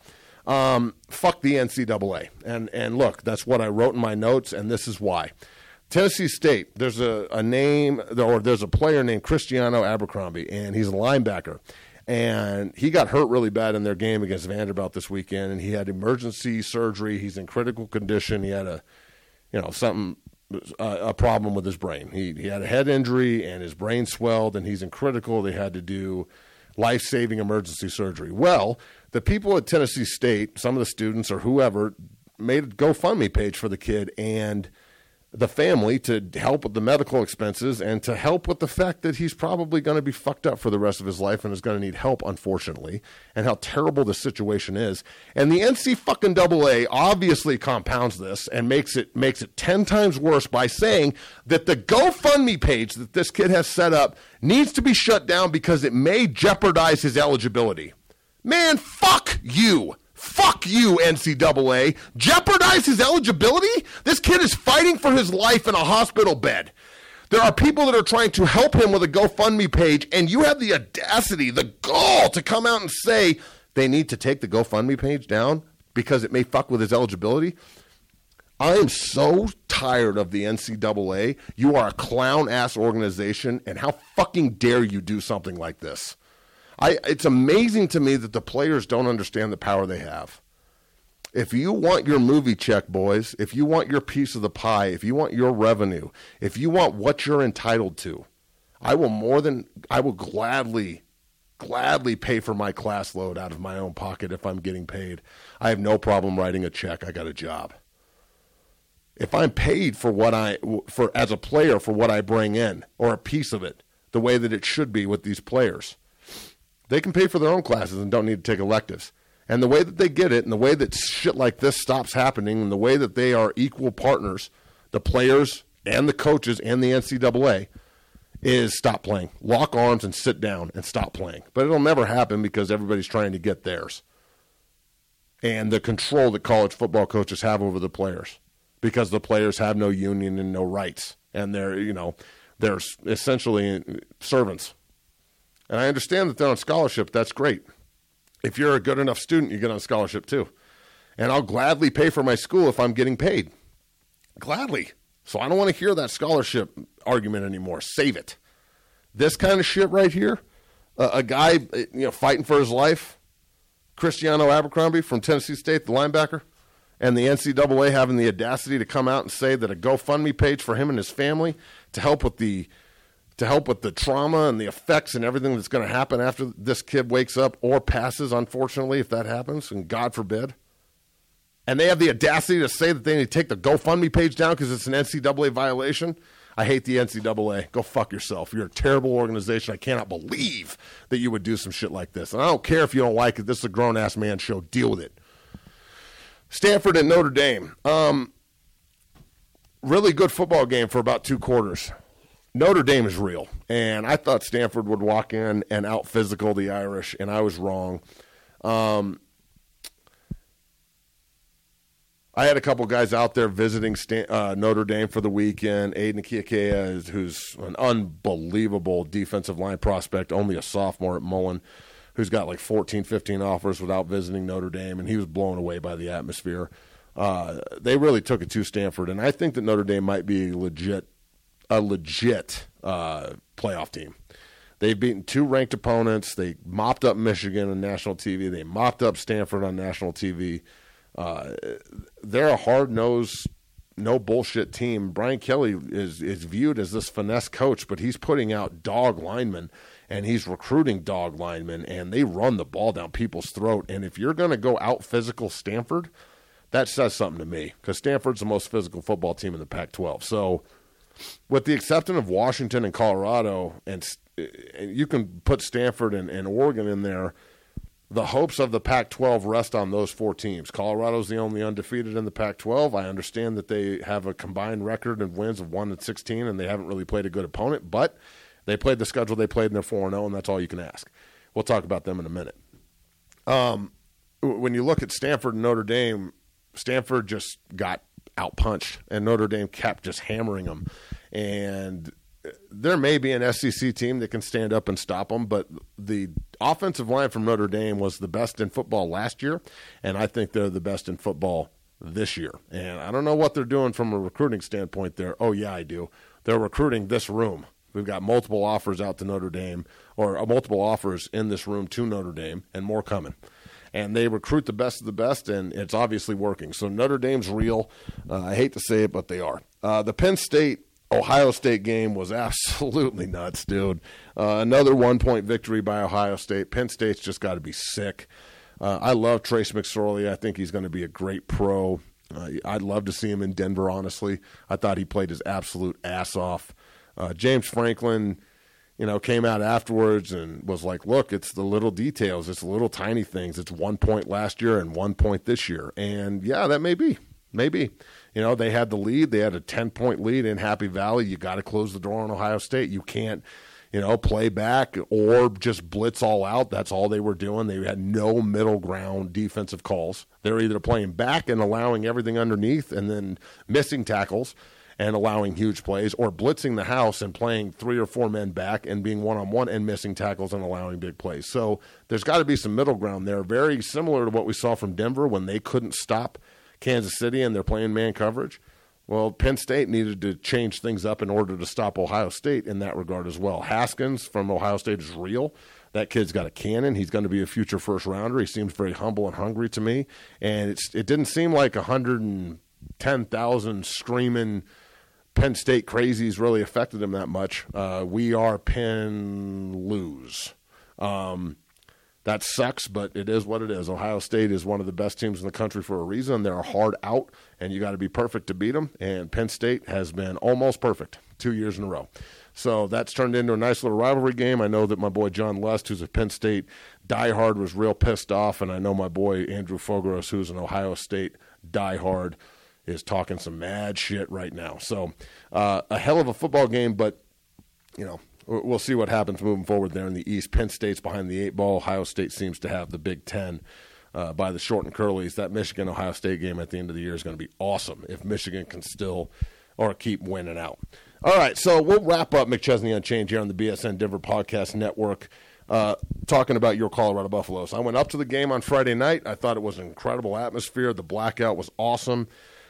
Um, fuck the N C double A. And, and look, that's what I wrote in my notes, and this is why. Tennessee State, there's a, a name, or there's a player named Cristiano Abercrombie, and he's a linebacker. And he got hurt really bad in their game against Vanderbilt this weekend, and he had emergency surgery. He's in critical condition. He had a, you know, something, uh, a problem with his brain. He he had a head injury, and his brain swelled, and he's in critical. They had to do life-saving emergency surgery. Well, the people at Tennessee State, some of the students or whoever, made a GoFundMe page for the kid and the family to help with the medical expenses and to help with the fact that he's probably going to be fucked up for the rest of his life and is going to need help, unfortunately, and how terrible the situation is. And the N C fucking double A obviously compounds this and makes it makes it ten times worse by saying that the GoFundMe page that this kid has set up needs to be shut down because it may jeopardize his eligibility. Man, fuck you. Fuck you, N C double A. Jeopardize his eligibility? This kid is fighting for his life in a hospital bed. There are people that are trying to help him with a GoFundMe page, and you have the audacity, the gall to come out and say they need to take the GoFundMe page down because it may fuck with his eligibility. I am so tired of the N C double A. You are a clown-ass organization, and how fucking dare you do something like this? I, it's amazing to me that the players don't understand the power they have. If you want your movie check, boys, if you want your piece of the pie, if you want your revenue, if you want what you're entitled to, I will more than, I will gladly, gladly pay for my class load out of my own pocket if I'm getting paid. I have no problem writing a check. I got a job. If I'm paid for what I, for as a player, for what I bring in, or a piece of it, the way that it should be with these players, they can pay for their own classes and don't need to take electives. And the way that they get it and the way that shit like this stops happening and the way that they are equal partners, the players and the coaches and the N C double A, is stop playing. Lock arms and sit down and stop playing. But it'll never happen because everybody's trying to get theirs. And the control that college football coaches have over the players because the players have no union and no rights. And they're, you know, they're essentially servants. And I understand that they're on scholarship. That's great. If you're a good enough student, you get on scholarship too. And I'll gladly pay for my school if I'm getting paid. Gladly. So I don't want to hear that scholarship argument anymore. Save it. This kind of shit right here, uh, a guy you know fighting for his life, Cristiano Abercrombie from Tennessee State, the linebacker, and the N C double A having the audacity to come out and say that a GoFundMe page for him and his family to help with the to help with the trauma and the effects and everything that's going to happen after this kid wakes up or passes, unfortunately, if that happens, and God forbid. And they have the audacity to say that they need to take the GoFundMe page down because it's an N C double A violation. I hate the N C double A. Go fuck yourself. You're a terrible organization. I cannot believe that you would do some shit like this. And I don't care if you don't like it. This is a grown-ass man show. Deal with it. Stanford and Notre Dame. Um, really good football game for about two quarters. Notre Dame is real, and I thought Stanford would walk in and out-physical the Irish, and I was wrong. Um, I had a couple guys out there visiting Stan- uh, Notre Dame for the weekend. Aiden Kiakea, who's an unbelievable defensive line prospect, only a sophomore at Mullen, who's got like fourteen, fifteen offers without visiting Notre Dame, and he was blown away by the atmosphere. Uh, they really took it to Stanford, and I think that Notre Dame might be legit a legit uh, playoff team. They've beaten two ranked opponents. They mopped up Michigan on national T V. They mopped up Stanford on national T V. Uh, they're a hard-nosed, no-bullshit team. Brian Kelly is, is viewed as this finesse coach, but he's putting out dog linemen, and he's recruiting dog linemen, and they run the ball down people's throat. And if you're going to go out-physical Stanford, that says something to me because Stanford's the most physical football team in the Pac twelve. So with the exception of Washington and Colorado, and, and you can put Stanford and, and Oregon in there, the hopes of the Pac twelve rest on those four teams. Colorado's the only undefeated in the Pac twelve. I understand that they have a combined record and wins of one and sixteen, and they haven't really played a good opponent, but they played the schedule they played, and they're four and oh, and that's all you can ask. We'll talk about them in a minute. Um, when you look at Stanford and Notre Dame, Stanford just got outpunched, and Notre Dame kept just hammering them. And there may be an S E C team that can stand up and stop them, but the offensive line from Notre Dame was the best in football last year, and I think they're the best in football this year. And I don't know what they're doing from a recruiting standpoint there. Oh, yeah, I do. They're recruiting this room. We've got multiple offers out to Notre Dame, or uh, multiple offers in this room to Notre Dame, and more coming. And they recruit the best of the best, and it's obviously working. So Notre Dame's real. Uh, I hate to say it, but they are. Uh, the Penn State-Ohio State game was absolutely nuts, dude. Uh, another one-point victory by Ohio State. Penn State's just got to be sick. Uh, I love Trace McSorley. I think he's going to be a great pro. Uh, I'd love to see him in Denver, honestly. I thought he played his absolute ass off. Uh, James Franklin, you know, came out afterwards and was like, look, it's the little details. It's the little tiny things. It's one point last year and one point this year. And, yeah, that may be. Maybe. You know, they had the lead. They had a ten-point lead in Happy Valley. You got to close the door on Ohio State. You can't, you know, play back or just blitz all out. That's all they were doing. They had no middle ground defensive calls. They're either playing back and allowing everything underneath and then missing tackles and allowing huge plays, or blitzing the house and playing three or four men back and being one-on-one and missing tackles and allowing big plays. So there's got to be some middle ground there, very similar to what we saw from Denver when they couldn't stop Kansas City and they're playing man coverage. Well, Penn State needed to change things up in order to stop Ohio State in that regard as well. Haskins from Ohio State is real. That kid's got a cannon. He's going to be a future first-rounder. He seems very humble and hungry to me. And it's, it didn't seem like one hundred ten thousand screaming Penn State crazies really affected him that much. Uh, we are Penn lose. Um, that sucks, but it is what it is. Ohio State is one of the best teams in the country for a reason. They're a hard out, and you got to be perfect to beat them. And Penn State has been almost perfect two years in a row. So that's turned into a nice little rivalry game. I know that my boy John Lust, who's a Penn State diehard, was real pissed off, and I know my boy Andrew Fogaros, who's an Ohio State diehard, is talking some mad shit right now. So uh, a hell of a football game, but, you know, we'll see what happens moving forward there in the East. Penn State's behind the eight ball. Ohio State seems to have the Big Ten uh, by the short and curlies. That Michigan-Ohio State game at the end of the year is going to be awesome if Michigan can still or keep winning out. All right, so we'll wrap up McChesney Unchained here on the B S N Denver Podcast Network. Uh, talking about your Colorado Buffaloes. I went up to the game on Friday night. I thought it was an incredible atmosphere. The blackout was awesome.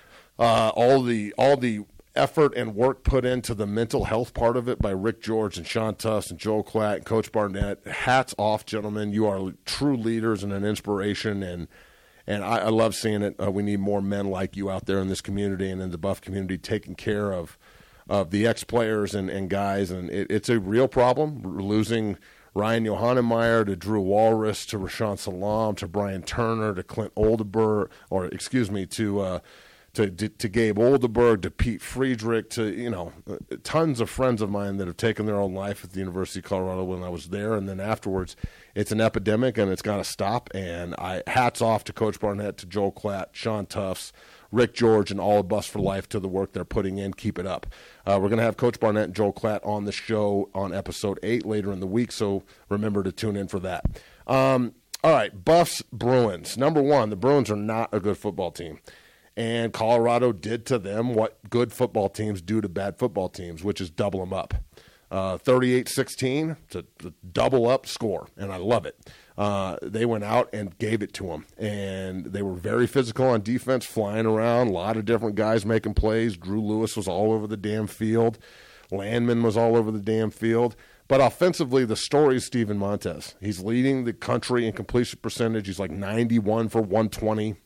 Uh, all the all the effort and work put into the mental health part of it by Rick George and Sean Tufts and Joel Klatt and Coach Barnett. Hats off, gentlemen. You are true leaders and an inspiration, and and I, I love seeing it. Uh, we need more men like you out there in this community and in the Buff community taking care of of the ex-players and, and guys. And it, it's a real problem. We're losing Ryan Johannemeyer to Drew Walrus to Rashawn Salam to Brian Turner to Clint Oldenburg, or excuse me, to uh, To, to, to Gabe Oldenburg, to Pete Friedrich, to, you know, tons of friends of mine that have taken their own life at the University of Colorado when I was there. And then afterwards, it's an epidemic and it's got to stop. And I hats off to Coach Barnett, to Joel Klatt, Sean Tufts, Rick George, and all of Bus for Life to the work they're putting in. Keep it up. Uh, we're going to have Coach Barnett and Joel Klatt on the show on episode eight later in the week, so remember to tune in for that. Um, all right, Buffs, Bruins. Number one, the Bruins are not a good football team. And Colorado did to them what good football teams do to bad football teams, which is double them up. Uh, thirty-eight sixteen, it's a, a double-up score, and I love it. Uh, they went out and gave it to them, and they were very physical on defense, flying around, a lot of different guys making plays. Drew Lewis was all over the damn field. Landman was all over the damn field. But offensively, the story is Steven Montez. He's leading the country in completion percentage. He's like ninety-one for one twenty.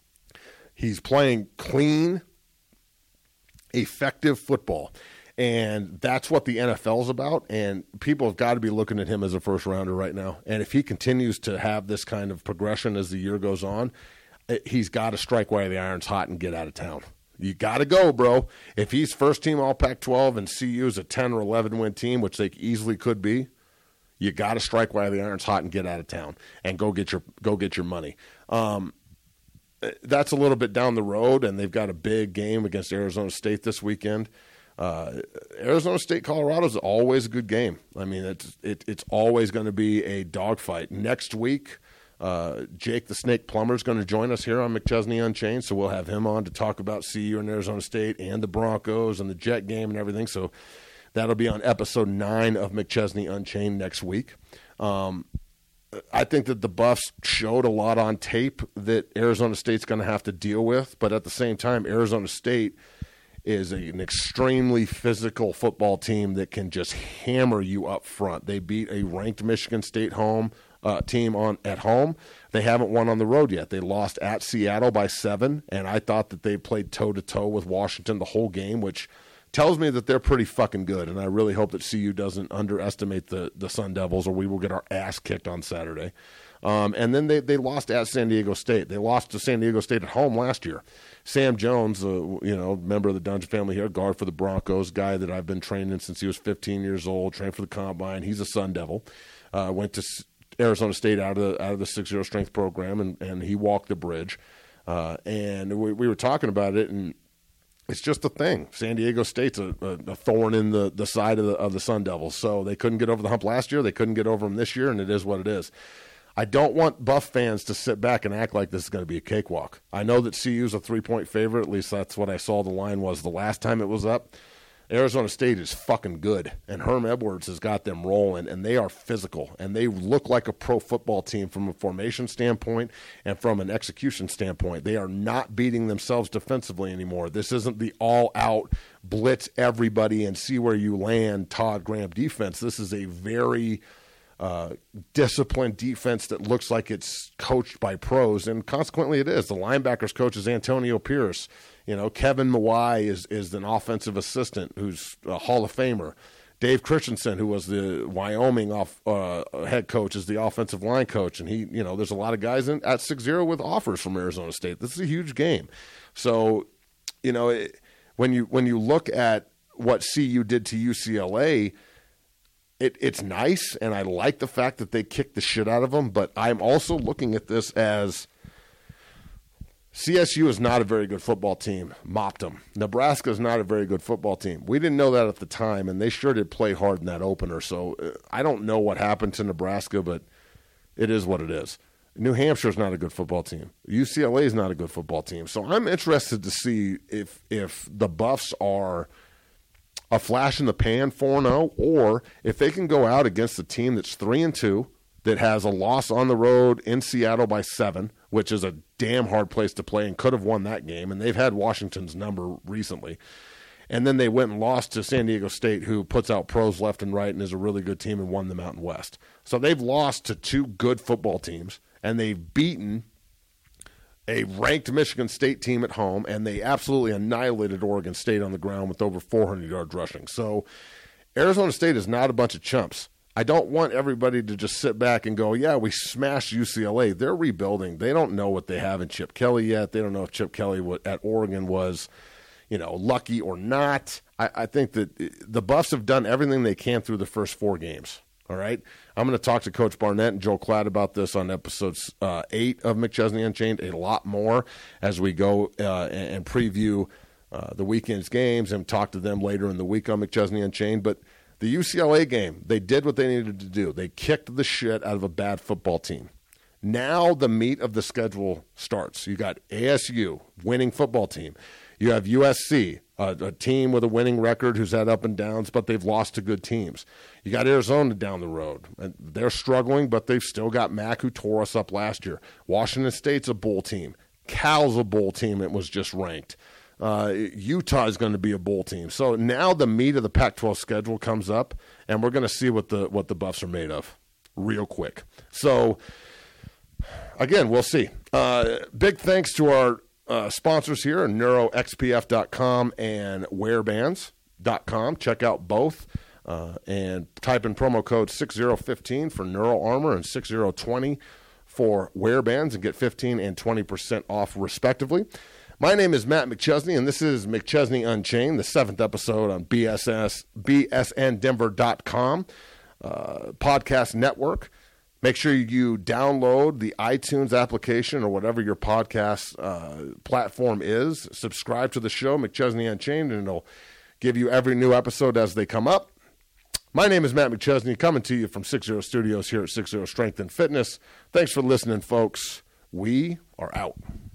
He's playing clean, effective football, and that's what the N F L is about, and people have got to be looking at him as a first-rounder right now. And if he continues to have this kind of progression as the year goes on, he's got to strike while the iron's hot and get out of town. You got to go, bro. If he's first-team All Pac twelve and C U's a ten or eleven-win team, which they easily could be, you got to strike while the iron's hot and get out of town and go get your go get your money. Um, That's a little bit down the road, and they've got a big game against Arizona State this weekend. Uh, Arizona State, Colorado is always a good game. I mean, it's it, it's always going to be a dogfight. Next week, uh, Jake the Snake Plummer is going to join us here on McChesney Unchained, so we'll have him on to talk about C U and Arizona State and the Broncos and the Jet game and everything. So that'll be on episode nine of McChesney Unchained next week. Um, I think that the Buffs showed a lot on tape that Arizona State's going to have to deal with, but at the same time, Arizona State is a, an extremely physical football team that can just hammer you up front. They beat a ranked Michigan State home uh, team on at home. They haven't won on the road yet. They lost at Seattle by seven, and I thought that they played toe-to-toe with Washington the whole game, which tells me that they're pretty fucking good, and I really hope that C U doesn't underestimate the, the Sun Devils, or we will get our ass kicked on Saturday. Um, and then they, they lost at San Diego State. They lost to San Diego State at home last year. Sam Jones, uh, you know, member of the Dungeon family here, guard for the Broncos, guy that I've been training since he was fifteen years old, trained for the Combine. He's a Sun Devil. Uh, went to Arizona State out of the, out of the six zero strength program, and, and he walked the bridge. Uh, and we, we were talking about it, and it's just a thing. San Diego State's a, a, a thorn in the, the side of the, of the Sun Devils. So they couldn't get over the hump last year. They couldn't get over them this year, and it is what it is. I don't want Buff fans to sit back and act like this is going to be a cakewalk. I know that C U's a three-point favorite. At least that's what I saw the line was the last time it was up. Arizona State is fucking good, and Herm Edwards has got them rolling, and they are physical, and they look like a pro football team from a formation standpoint and from an execution standpoint. They are not beating themselves defensively anymore. This isn't the all-out blitz everybody and see where you land Todd Graham defense. This is a very uh, disciplined defense that looks like it's coached by pros, and consequently it is. The linebackers coach is Antonio Pierce. You know, Kevin Mawai is, is an offensive assistant who's a Hall of Famer. Dave Christensen, who was the Wyoming off, uh, head coach, is the offensive line coach. And he, you know, there's a lot of guys in, at six zero with offers from Arizona State. This is a huge game. So, you know, it, when you when you look at what C U did to U C L A, it, it's nice, and I like the fact that they kicked the shit out of them. But I'm also looking at this as C S U is not a very good football team. Mopped them. Nebraska is not a very good football team. We didn't know that at the time, and they sure did play hard in that opener. So uh, I don't know what happened to Nebraska, but it is what it is. New Hampshire is not a good football team. U C L A is not a good football team. So I'm interested to see if if the Buffs are a flash in the pan four and oh, or if they can go out against a team that's three and two, that has a loss on the road in Seattle by seven, which is a damn hard place to play and could have won that game. And they've had Washington's number recently. And then they went and lost to San Diego State, who puts out pros left and right and is a really good team and won the Mountain West. So they've lost to two good football teams, and they've beaten a ranked Michigan State team at home, and they absolutely annihilated Oregon State on the ground with over four hundred yards rushing. So Arizona State is not a bunch of chumps. I don't want everybody to just sit back and go, yeah, we smashed U C L A. They're rebuilding. They don't know what they have in Chip Kelly yet. They don't know if Chip Kelly at Oregon was, you know, lucky or not. I, I think that the Buffs have done everything they can through the first four games. All right? I'm going to talk to Coach Barnett and Joel Klatt about this on episode uh, eight of McChesney Unchained, a lot more as we go uh, and, and preview uh, the weekend's games and talk to them later in the week on McChesney Unchained. But the U C L A game, they did what they needed to do. They kicked the shit out of a bad football team. Now the meat of the schedule starts. You got A S U, winning football team. You have U S C, a, a team with a winning record who's had up and downs, but they've lost to good teams. You got Arizona down the road. And they're struggling, but they've still got Mac, who tore us up last year. Washington State's a bowl team. Cal's a bowl team. It was just ranked. Uh, Utah is going to be a bowl team. So now the meat of the Pac twelve schedule comes up, and we're going to see what the what the Buffs are made of real quick. So, again, we'll see. Uh, big thanks to our uh, sponsors here, neuro x p f dot com and wear bands dot com. Check out both uh, and type in promo code six zero one five for Neural Armor and six zero two zero for wear bands and get fifteen and twenty percent off respectively. My name is Matt McChesney, and this is McChesney Unchained, the seventh episode on B S S, B S N Denver dot com uh, podcast network. Make sure you download the iTunes application or whatever your podcast uh, platform is. Subscribe to the show, McChesney Unchained, and it'll give you every new episode as they come up. My name is Matt McChesney, coming to you from six zero Studios here at six zero Strength and Fitness. Thanks for listening, folks. We are out.